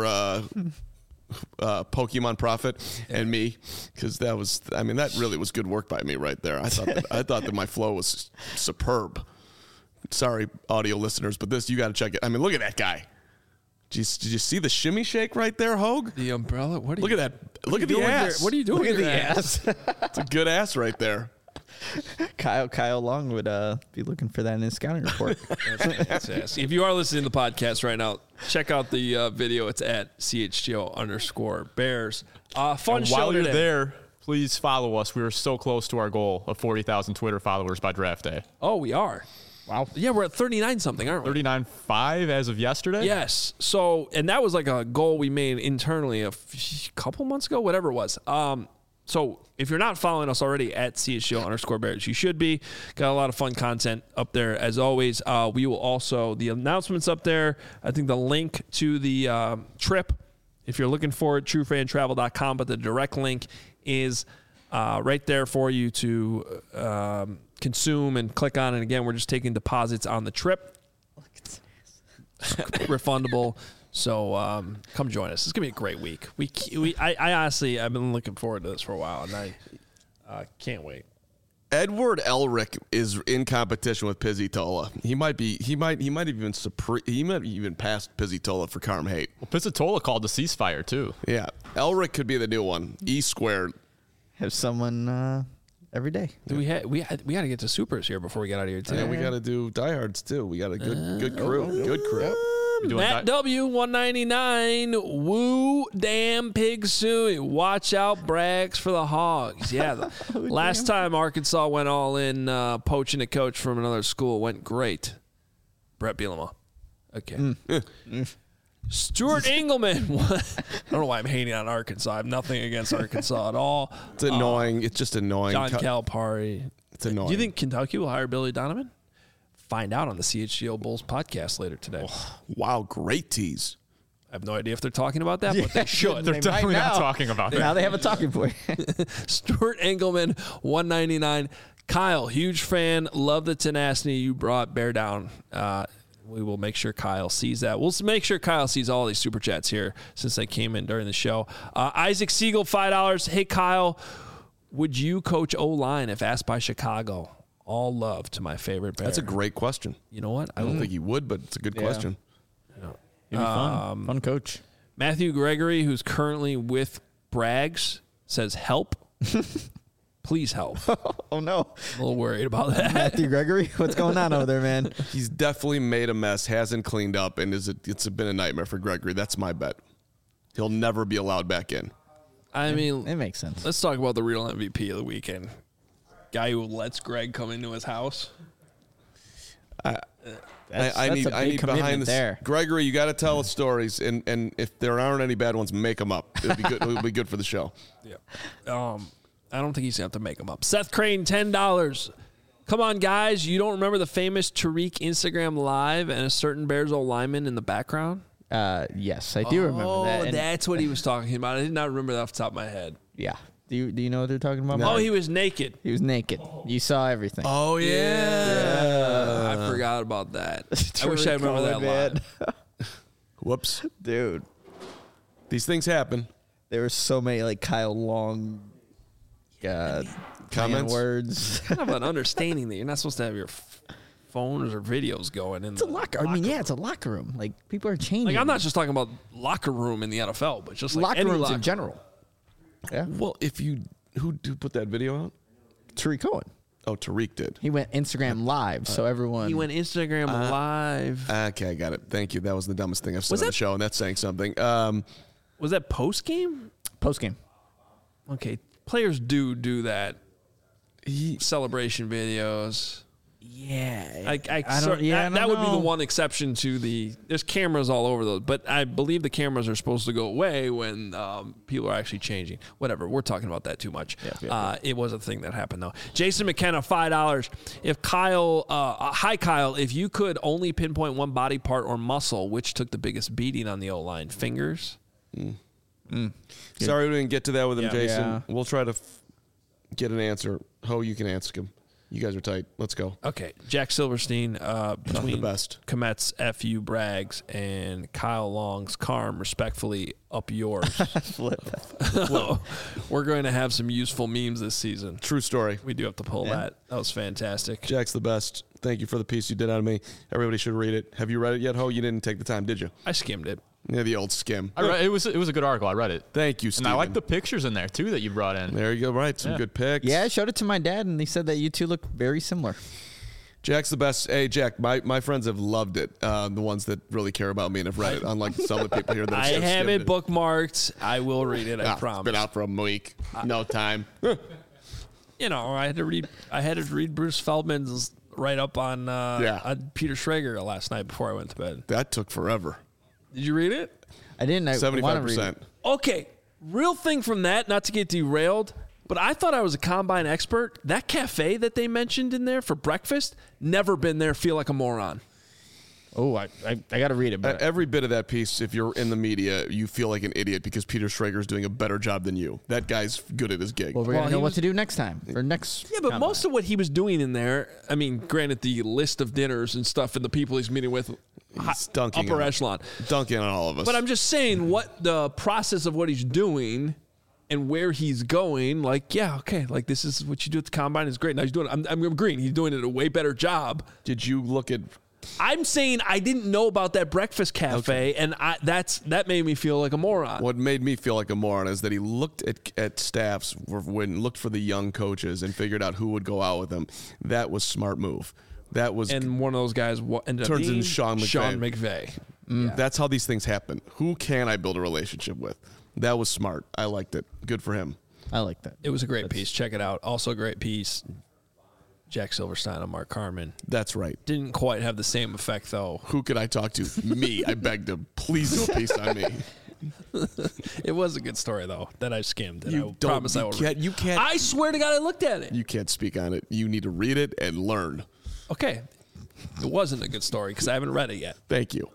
Pokemon Prophet and me? Because that really was good work by me right there. I thought that my flow was superb. Sorry, audio listeners, but you got to check it. I mean, look at that guy. Did you see the shimmy shake right there, Hogue? The umbrella? Look at that. Look at the ass. What are you doing? Look at the ass. It's a good ass right there. Kyle Long would be looking for that in his scouting report. If you are listening to the podcast right now, check out the video. It's at CHGO_Bears. Fun show while you're today. there, please follow us. We are so close to our goal of 40,000 Twitter followers by draft day. Oh, we are. Wow. Yeah, we're at 39 something, aren't we? 39.5 as of yesterday? Yes. So, and that was like a goal we made internally a couple months ago, whatever it was. So if you're not following us already at CHGO_Bears, you should be. Got a lot of fun content up there as always. We will also, the announcements up there, I think the link to the trip, if you're looking for it, truefantravel.com, but the direct link is right there for you to consume and click on. And again, we're just taking deposits on the trip. Refundable. So come join us. It's gonna be a great week. I honestly, I've been looking forward to this for a while, and I can't wait. Edward Elric is in competition with Pizzitola. He might have even passed Pizzitola for Carm Hate. Well, Pizzitola called the ceasefire too. Yeah, Elric could be the new one. E². Have someone every day. We got to get to supers here before we get out of here today. Yeah, we got to do diehards too. We got a good crew. Good crew. Matt W 199. Woo damn pig suey. Watch out, Brags for the Hogs. Yeah, last time Arkansas went all in poaching a coach from another school went great. Brett Bielema. Okay. Stuart Engelman. I don't know why I'm hating on Arkansas. I have nothing against Arkansas at all. It's annoying. It's just annoying. John Calipari. It's annoying. Do you think Kentucky will hire Billy Donovan? Find out on the CHGO Bulls podcast later today. Oh, wow, great tease. I have no idea if they're talking about that, but they should. They're definitely not talking about that. Now they have a talking point. Stuart Engelman, 199. Kyle, huge fan. Love the tenacity you brought. Bear down. We will make sure Kyle sees that. We'll make sure Kyle sees all these super chats here since they came in during the show. Isaac Siegel, $5. Hey, Kyle, would you coach O-line if asked by Chicago? All love to my favorite Bear. That's a great question. You know what? I don't think he would, but it's a good question. It'd be fun. Fun coach. Matthew Gregory, who's currently with Brags, says help. Please help. Oh, no. I'm a little worried about that. Matthew Gregory, what's going on over there, man? He's definitely made a mess, hasn't cleaned up, and it's been a nightmare for Gregory. That's my bet. He'll never be allowed back in. I mean, it makes sense. Let's talk about the real MVP of the weekend. Guy who lets Greg come into his house. I need behind this. There. Gregory, you got to tell us stories, and if there aren't any bad ones, make them up. It'll be good. It'll be good for the show. Yeah. I don't think he's gonna have to make them up. Seth Crane, $10. Come on, guys. You don't remember the famous Tariq Instagram live and a certain Bears old lineman in the background? Yes, I do remember that. Oh, that's what he was talking about. I did not remember that off the top of my head. Yeah. Do you know what they're talking about? No. Oh, he was naked. He was naked. You saw everything. Oh, yeah. I forgot about that. I wish I remember that line. Whoops. Dude. These things happen. There were so many, like, Kyle Long comments. Words. Kind of an understanding that you're not supposed to have your phones or videos going in. It's a locker. I mean, yeah, it's a locker room. Like, people are changing. Like, I'm not just talking about locker room in the NFL, but just like locker any rooms locker in general. Yeah. Well, who put that video out? Tariq Cohen. Oh, Tariq did. He went Instagram live, so everyone. He went Instagram live. Okay, I got it. Thank you. That was the dumbest thing I've said on the show, and that's saying something. Was that post game? Post game. Okay, players do that. Celebration videos. Yeah, that would be the one exception to the. There's cameras all over those, but I believe the cameras are supposed to go away when people are actually changing. Whatever, we're talking about that too much. It was a thing that happened though. Jason McKenna, $5. If Kyle, hi Kyle, if you could only pinpoint one body part or muscle, which took the biggest beating on the O-line? Fingers. Sorry we didn't get to that with him, Jason. Yeah. We'll try to get an answer. Ho, you can ask him. You guys are tight. Let's go. Okay. Jack Silverstein, between the best. Komet's FU Brags and Kyle Long's Carm, respectfully, up yours. Flip. We're going to have some useful memes this season. True story. We do have to pull that. That was fantastic. Jack's the best. Thank you for the piece you did out of me. Everybody should read it. Have you read it yet, Ho? You didn't take the time, did you? I skimmed it. Yeah, the old skim. I read, it was a good article. I read it. Thank you, Steven. And I like the pictures in there, too, that you brought in. There you go. Right. Some good pics. Yeah, I showed it to my dad, and he said that you two look very similar. Jack's the best. Hey, Jack, my friends have loved it. The ones that really care about me and have read it, unlike some of the people here that I have have it skimmed bookmarked. I will read it. I promise. It's been out for a week. No time. You know, I had to read Bruce Feldman's write-up on Peter Schrager last night before I went to bed. That took forever. Did you read it? I didn't. 75%. Okay, real thing from that, not to get derailed, but I thought I was a combine expert. That cafe that they mentioned in there for breakfast, never been there, feel like a moron. Oh, I got to read it. But Every bit of that piece, if you're in the media, you feel like an idiot because Peter Schrager is doing a better job than you. That guy's good at his gig. Well, we're going to know what to do next time. Or next. Yeah, but most of what he was doing in there, I mean, granted, the list of dinners and stuff and the people he's meeting with, upper echelon. Dunking on all of us. But I'm just saying what the process of what he's doing and where he's going, like, yeah, okay, like this is what you do at the combine is great. Now he's doing it. I'm agreeing. He's doing it a way better job. Did you look at... I'm saying I didn't know about that breakfast cafe, and that made me feel like a moron. What made me feel like a moron is that he looked at staffs, looked for the young coaches, and figured out who would go out with them. That was smart move. That was, and one of those guys ended up being Sean McVay. Yeah. That's how these things happen. Who can I build a relationship with? That was smart. I liked it. Good for him. I like that. It was a great piece. Check it out. Also a great piece. Jack Silverstein and Mark Carman. That's right. Didn't quite have the same effect, though. Who could I talk to? Me. I begged him. Please do a piece on me. It was a good story, though, that I skimmed. And I promise I will. You can't. I swear to God, I looked at it. You can't speak on it. You need to read it and learn. Okay. It wasn't a good story because I haven't read it yet. Thank you.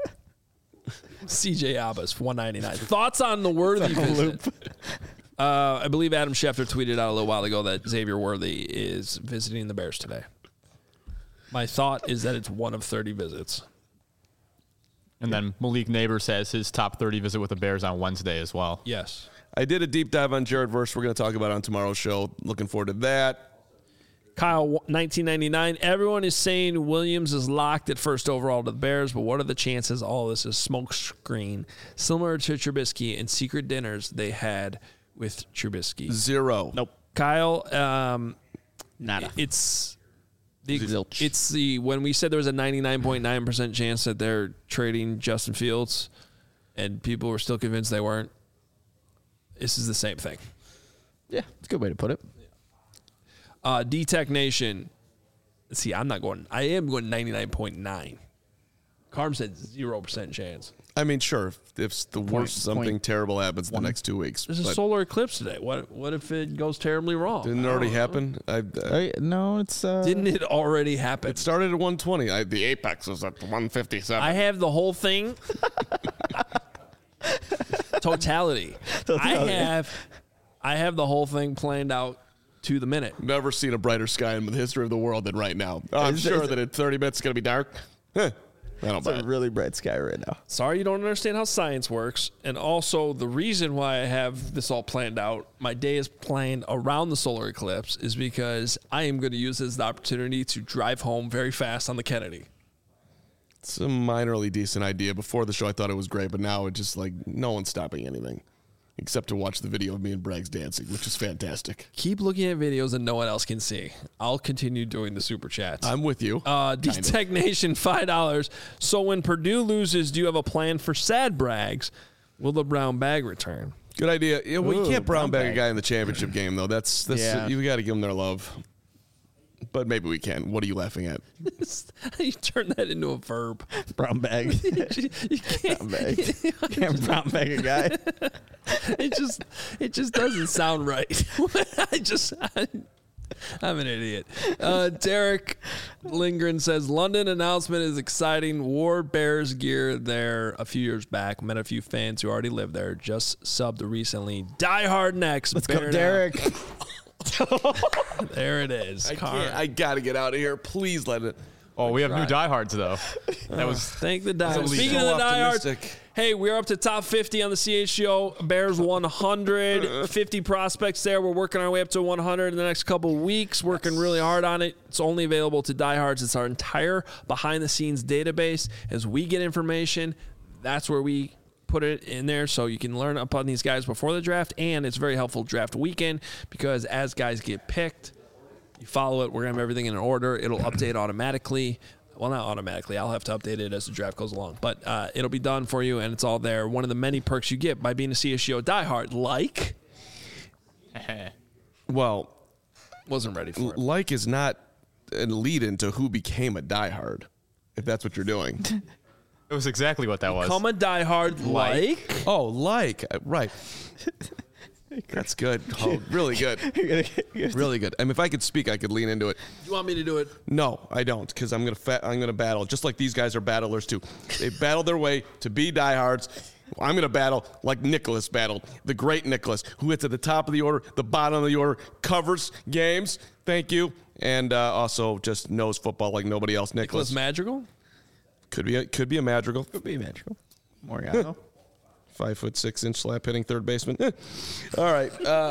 CJ Abbas, $1.99. Thoughts on the Worthy visit? I believe Adam Schefter tweeted out a little while ago that Xavier Worthy is visiting the Bears today. My thought is that it's one of 30 visits. And then Malik Neighbors has his top 30 visit with the Bears on Wednesday as well. Yes. I did a deep dive on Jared Verse. We're going to talk about it on tomorrow's show. Looking forward to that. Kyle, 1999. Everyone is saying Williams is locked at first overall to the Bears, but what are the chances all this is smoke screen, similar to Trubisky and secret dinners they had with Trubisky? Zero. Nope. Kyle, nada. It's the when we said there was a 99.9% chance that they're trading Justin Fields, and people were still convinced they weren't. This is the same thing. Yeah, it's a good way to put it. D-Tech Nation. See, I am going 99.9. Carm said 0% chance. I mean, sure, if the worst something terrible happens the next 2 weeks. There's a solar eclipse today. What if it goes terribly wrong? Didn't it already happen? No, it's... Didn't it already happen? It started at 120. The apex was at 157. I have the whole thing. Totality. I have the whole thing planned out to the minute. Never seen a brighter sky in the history of the world than right now. I'm sure that in 30 minutes it's going to be dark. I don't buy it. It's a really bright sky right now. Sorry you don't understand how science works. And also, the reason why I have this all planned out, my day is planned around the solar eclipse, is because I am going to use this as the opportunity to drive home very fast on the Kennedy. It's a minorly decent idea. Before the show, I thought it was great, but now it's just like no one's stopping anything. Except to watch the video of me and Braggs dancing, which is fantastic. Keep looking at videos that no one else can see. I'll continue doing the super chats. I'm with you. D-Tech Nation, $5. So when Purdue loses, do you have a plan for sad Braggs? Will the brown bag return? Good idea. Yeah, well, you can't brown bag a guy in the championship game, though. That's you got to give them their love. But maybe we can. What are you laughing at? You turn that into a verb. Brown bag. You can't, brown bag. Can't brown bag a guy. It just doesn't sound right. I'm an idiot. Derek Lindgren says London announcement is exciting. Wore Bears gear there a few years back. Met a few fans who already live there. Just subbed recently. Die Hard next. Let's go, Derek. There it is. I got to get out of here. Please let it. Oh, we have new diehards, though. That was thank the diehards. Speaking of the diehards, hey, we're up to top 50 on the CHGO. Bears 100, 50 prospects there. We're working our way up to 100 in the next couple of weeks, working really hard on it. It's only available to diehards. It's our entire behind-the-scenes database. As we get information, that's where we put it in there so you can learn upon these guys before the draft, and it's very helpful draft weekend because as guys get picked, you follow it. We're going to have everything in order. It'll update automatically. Well, not automatically. I'll have to update it as the draft goes along. But it'll be done for you, and it's all there. One of the many perks you get by being a CSGO diehard, like... Well... Wasn't ready for it. Like is not a lead-in to who became a diehard, if that's what you're doing. It was exactly what that was. Become a diehard like... Oh, like. Right. That's good. Oh, really good. Really good. I mean, if I could speak, I could lean into it. You want me to do it? No, I don't, because I'm gonna battle, just like these guys are battlers too. They battled their way to be diehards. I'm gonna battle like Nicholas battled, the great Nicholas, who hits at the top of the order, the bottom of the order, covers games. Thank you, and also just knows football like nobody else. Nicholas Madrigal. Could be a Madrigal. Could be a Madrigal. Morgano. 5'6" slap hitting third baseman. All right.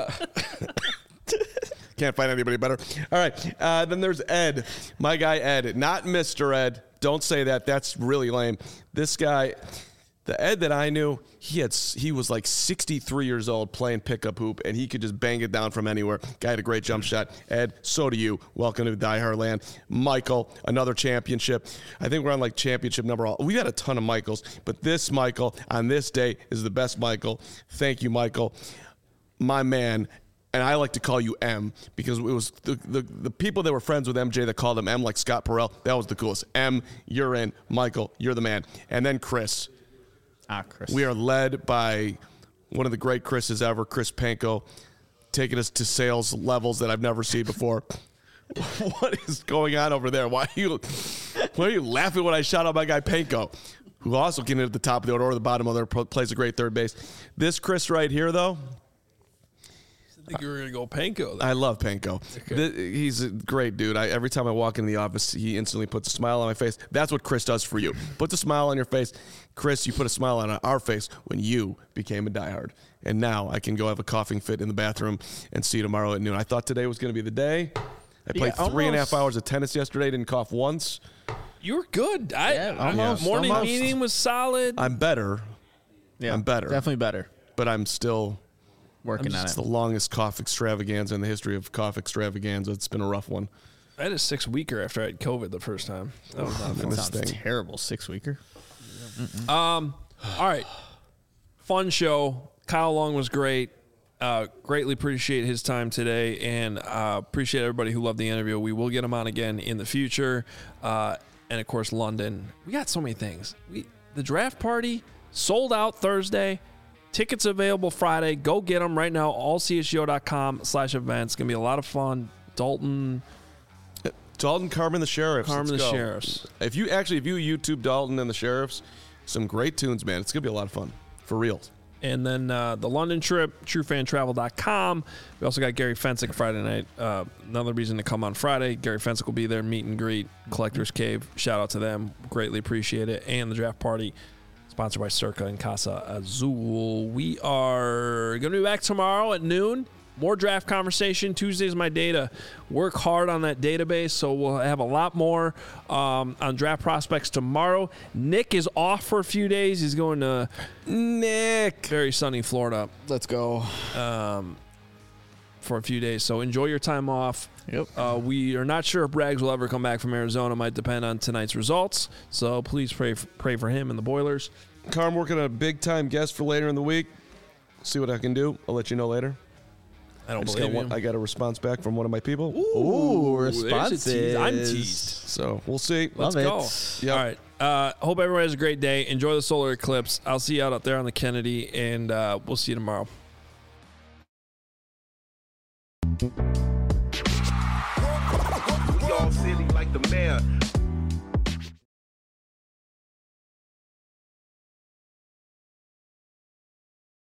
Can't find anybody better. All right. Then there's Ed, my guy Ed, not Mr. Ed. Don't say that. That's really lame. This guy, the Ed that I knew, he was like 63 years old playing pickup hoop, and he could just bang it down from anywhere. Guy had a great jump shot. Ed, so do you. Welcome to Die Hard Land. Michael, another championship. I think we're on like championship number. We got a ton of Michaels, but this Michael on this day is the best Michael. Thank you, Michael. My man. And I like to call you M because it was the people that were friends with MJ that called him M, like Scott Perrell. That was the coolest. M, you're in. Michael, you're the man. And then Chris. Chris. We are led by one of the great Chris's ever, Chris Panko, taking us to sales levels that I've never seen before. What is going on over there? Why are you laughing when I shout out my guy Panko, who also can hit at the top of the order or the bottom of the order, plays a great third base. This Chris right here, though, I think you were going to go Panko. I love Panko. Okay. He's a great dude. Every time I walk in the office, he instantly puts a smile on my face. That's what Chris does for you. Puts a smile on your face. Chris, you put a smile on our face when you became a diehard. And now I can go have a coughing fit in the bathroom and see you tomorrow at noon. I thought today was going to be the day. I played 3.5 hours of tennis yesterday. Didn't cough once. You were good. Morning meeting was solid. I'm better. Yeah, I'm better. Definitely better. But I'm still... working on it. It's the longest cough extravaganza in the history of cough extravaganza. It's been a rough one. I had a 6-weeker after I had COVID the first time. That was not fun. That sounds terrible. 6-weeker. All right. Fun show. Kyle Long was great. Greatly appreciate his time today, and appreciate everybody who loved the interview. We will get him on again in the future. And, of course, London. We got so many things. The draft party sold out Thursday. Tickets available Friday. Go get them right now. allchgo.com/events. It's going to be a lot of fun. Dalton, Carmen, the Sheriffs. Sheriffs. If you YouTube Dalton and the Sheriffs, some great tunes, man. It's going to be a lot of fun. For real. And then the London trip, truefantravel.com. We also got Gary Fensick Friday night. Another reason to come on Friday. Gary Fensick will be there. Meet and greet. Collector's Cave. Shout out to them. Greatly appreciate it. And the draft party. Sponsored by Circa and Casa Azul. We are going to be back tomorrow at noon. More draft conversation. Tuesday is my day to work hard on that database, so we'll have a lot more on draft prospects tomorrow. Nick is off for a few days. He's going to very sunny Florida. Let's go. For a few days, so enjoy your time off. Yep. We are not sure if Braggs will ever come back from Arizona. Might depend on tonight's results. So please pray for him and the Boilers. Carm working on a big-time guest for later in the week. See what I can do. I'll let you know later. I don't believe you. I got a response back from one of my people. Ooh, responses. I'm teased. So we'll see. Let's go. Yep. All right. Hope everyone has a great day. Enjoy the solar eclipse. I'll see you out there on the Kennedy, and we'll see you tomorrow. Y'all silly like the mayor.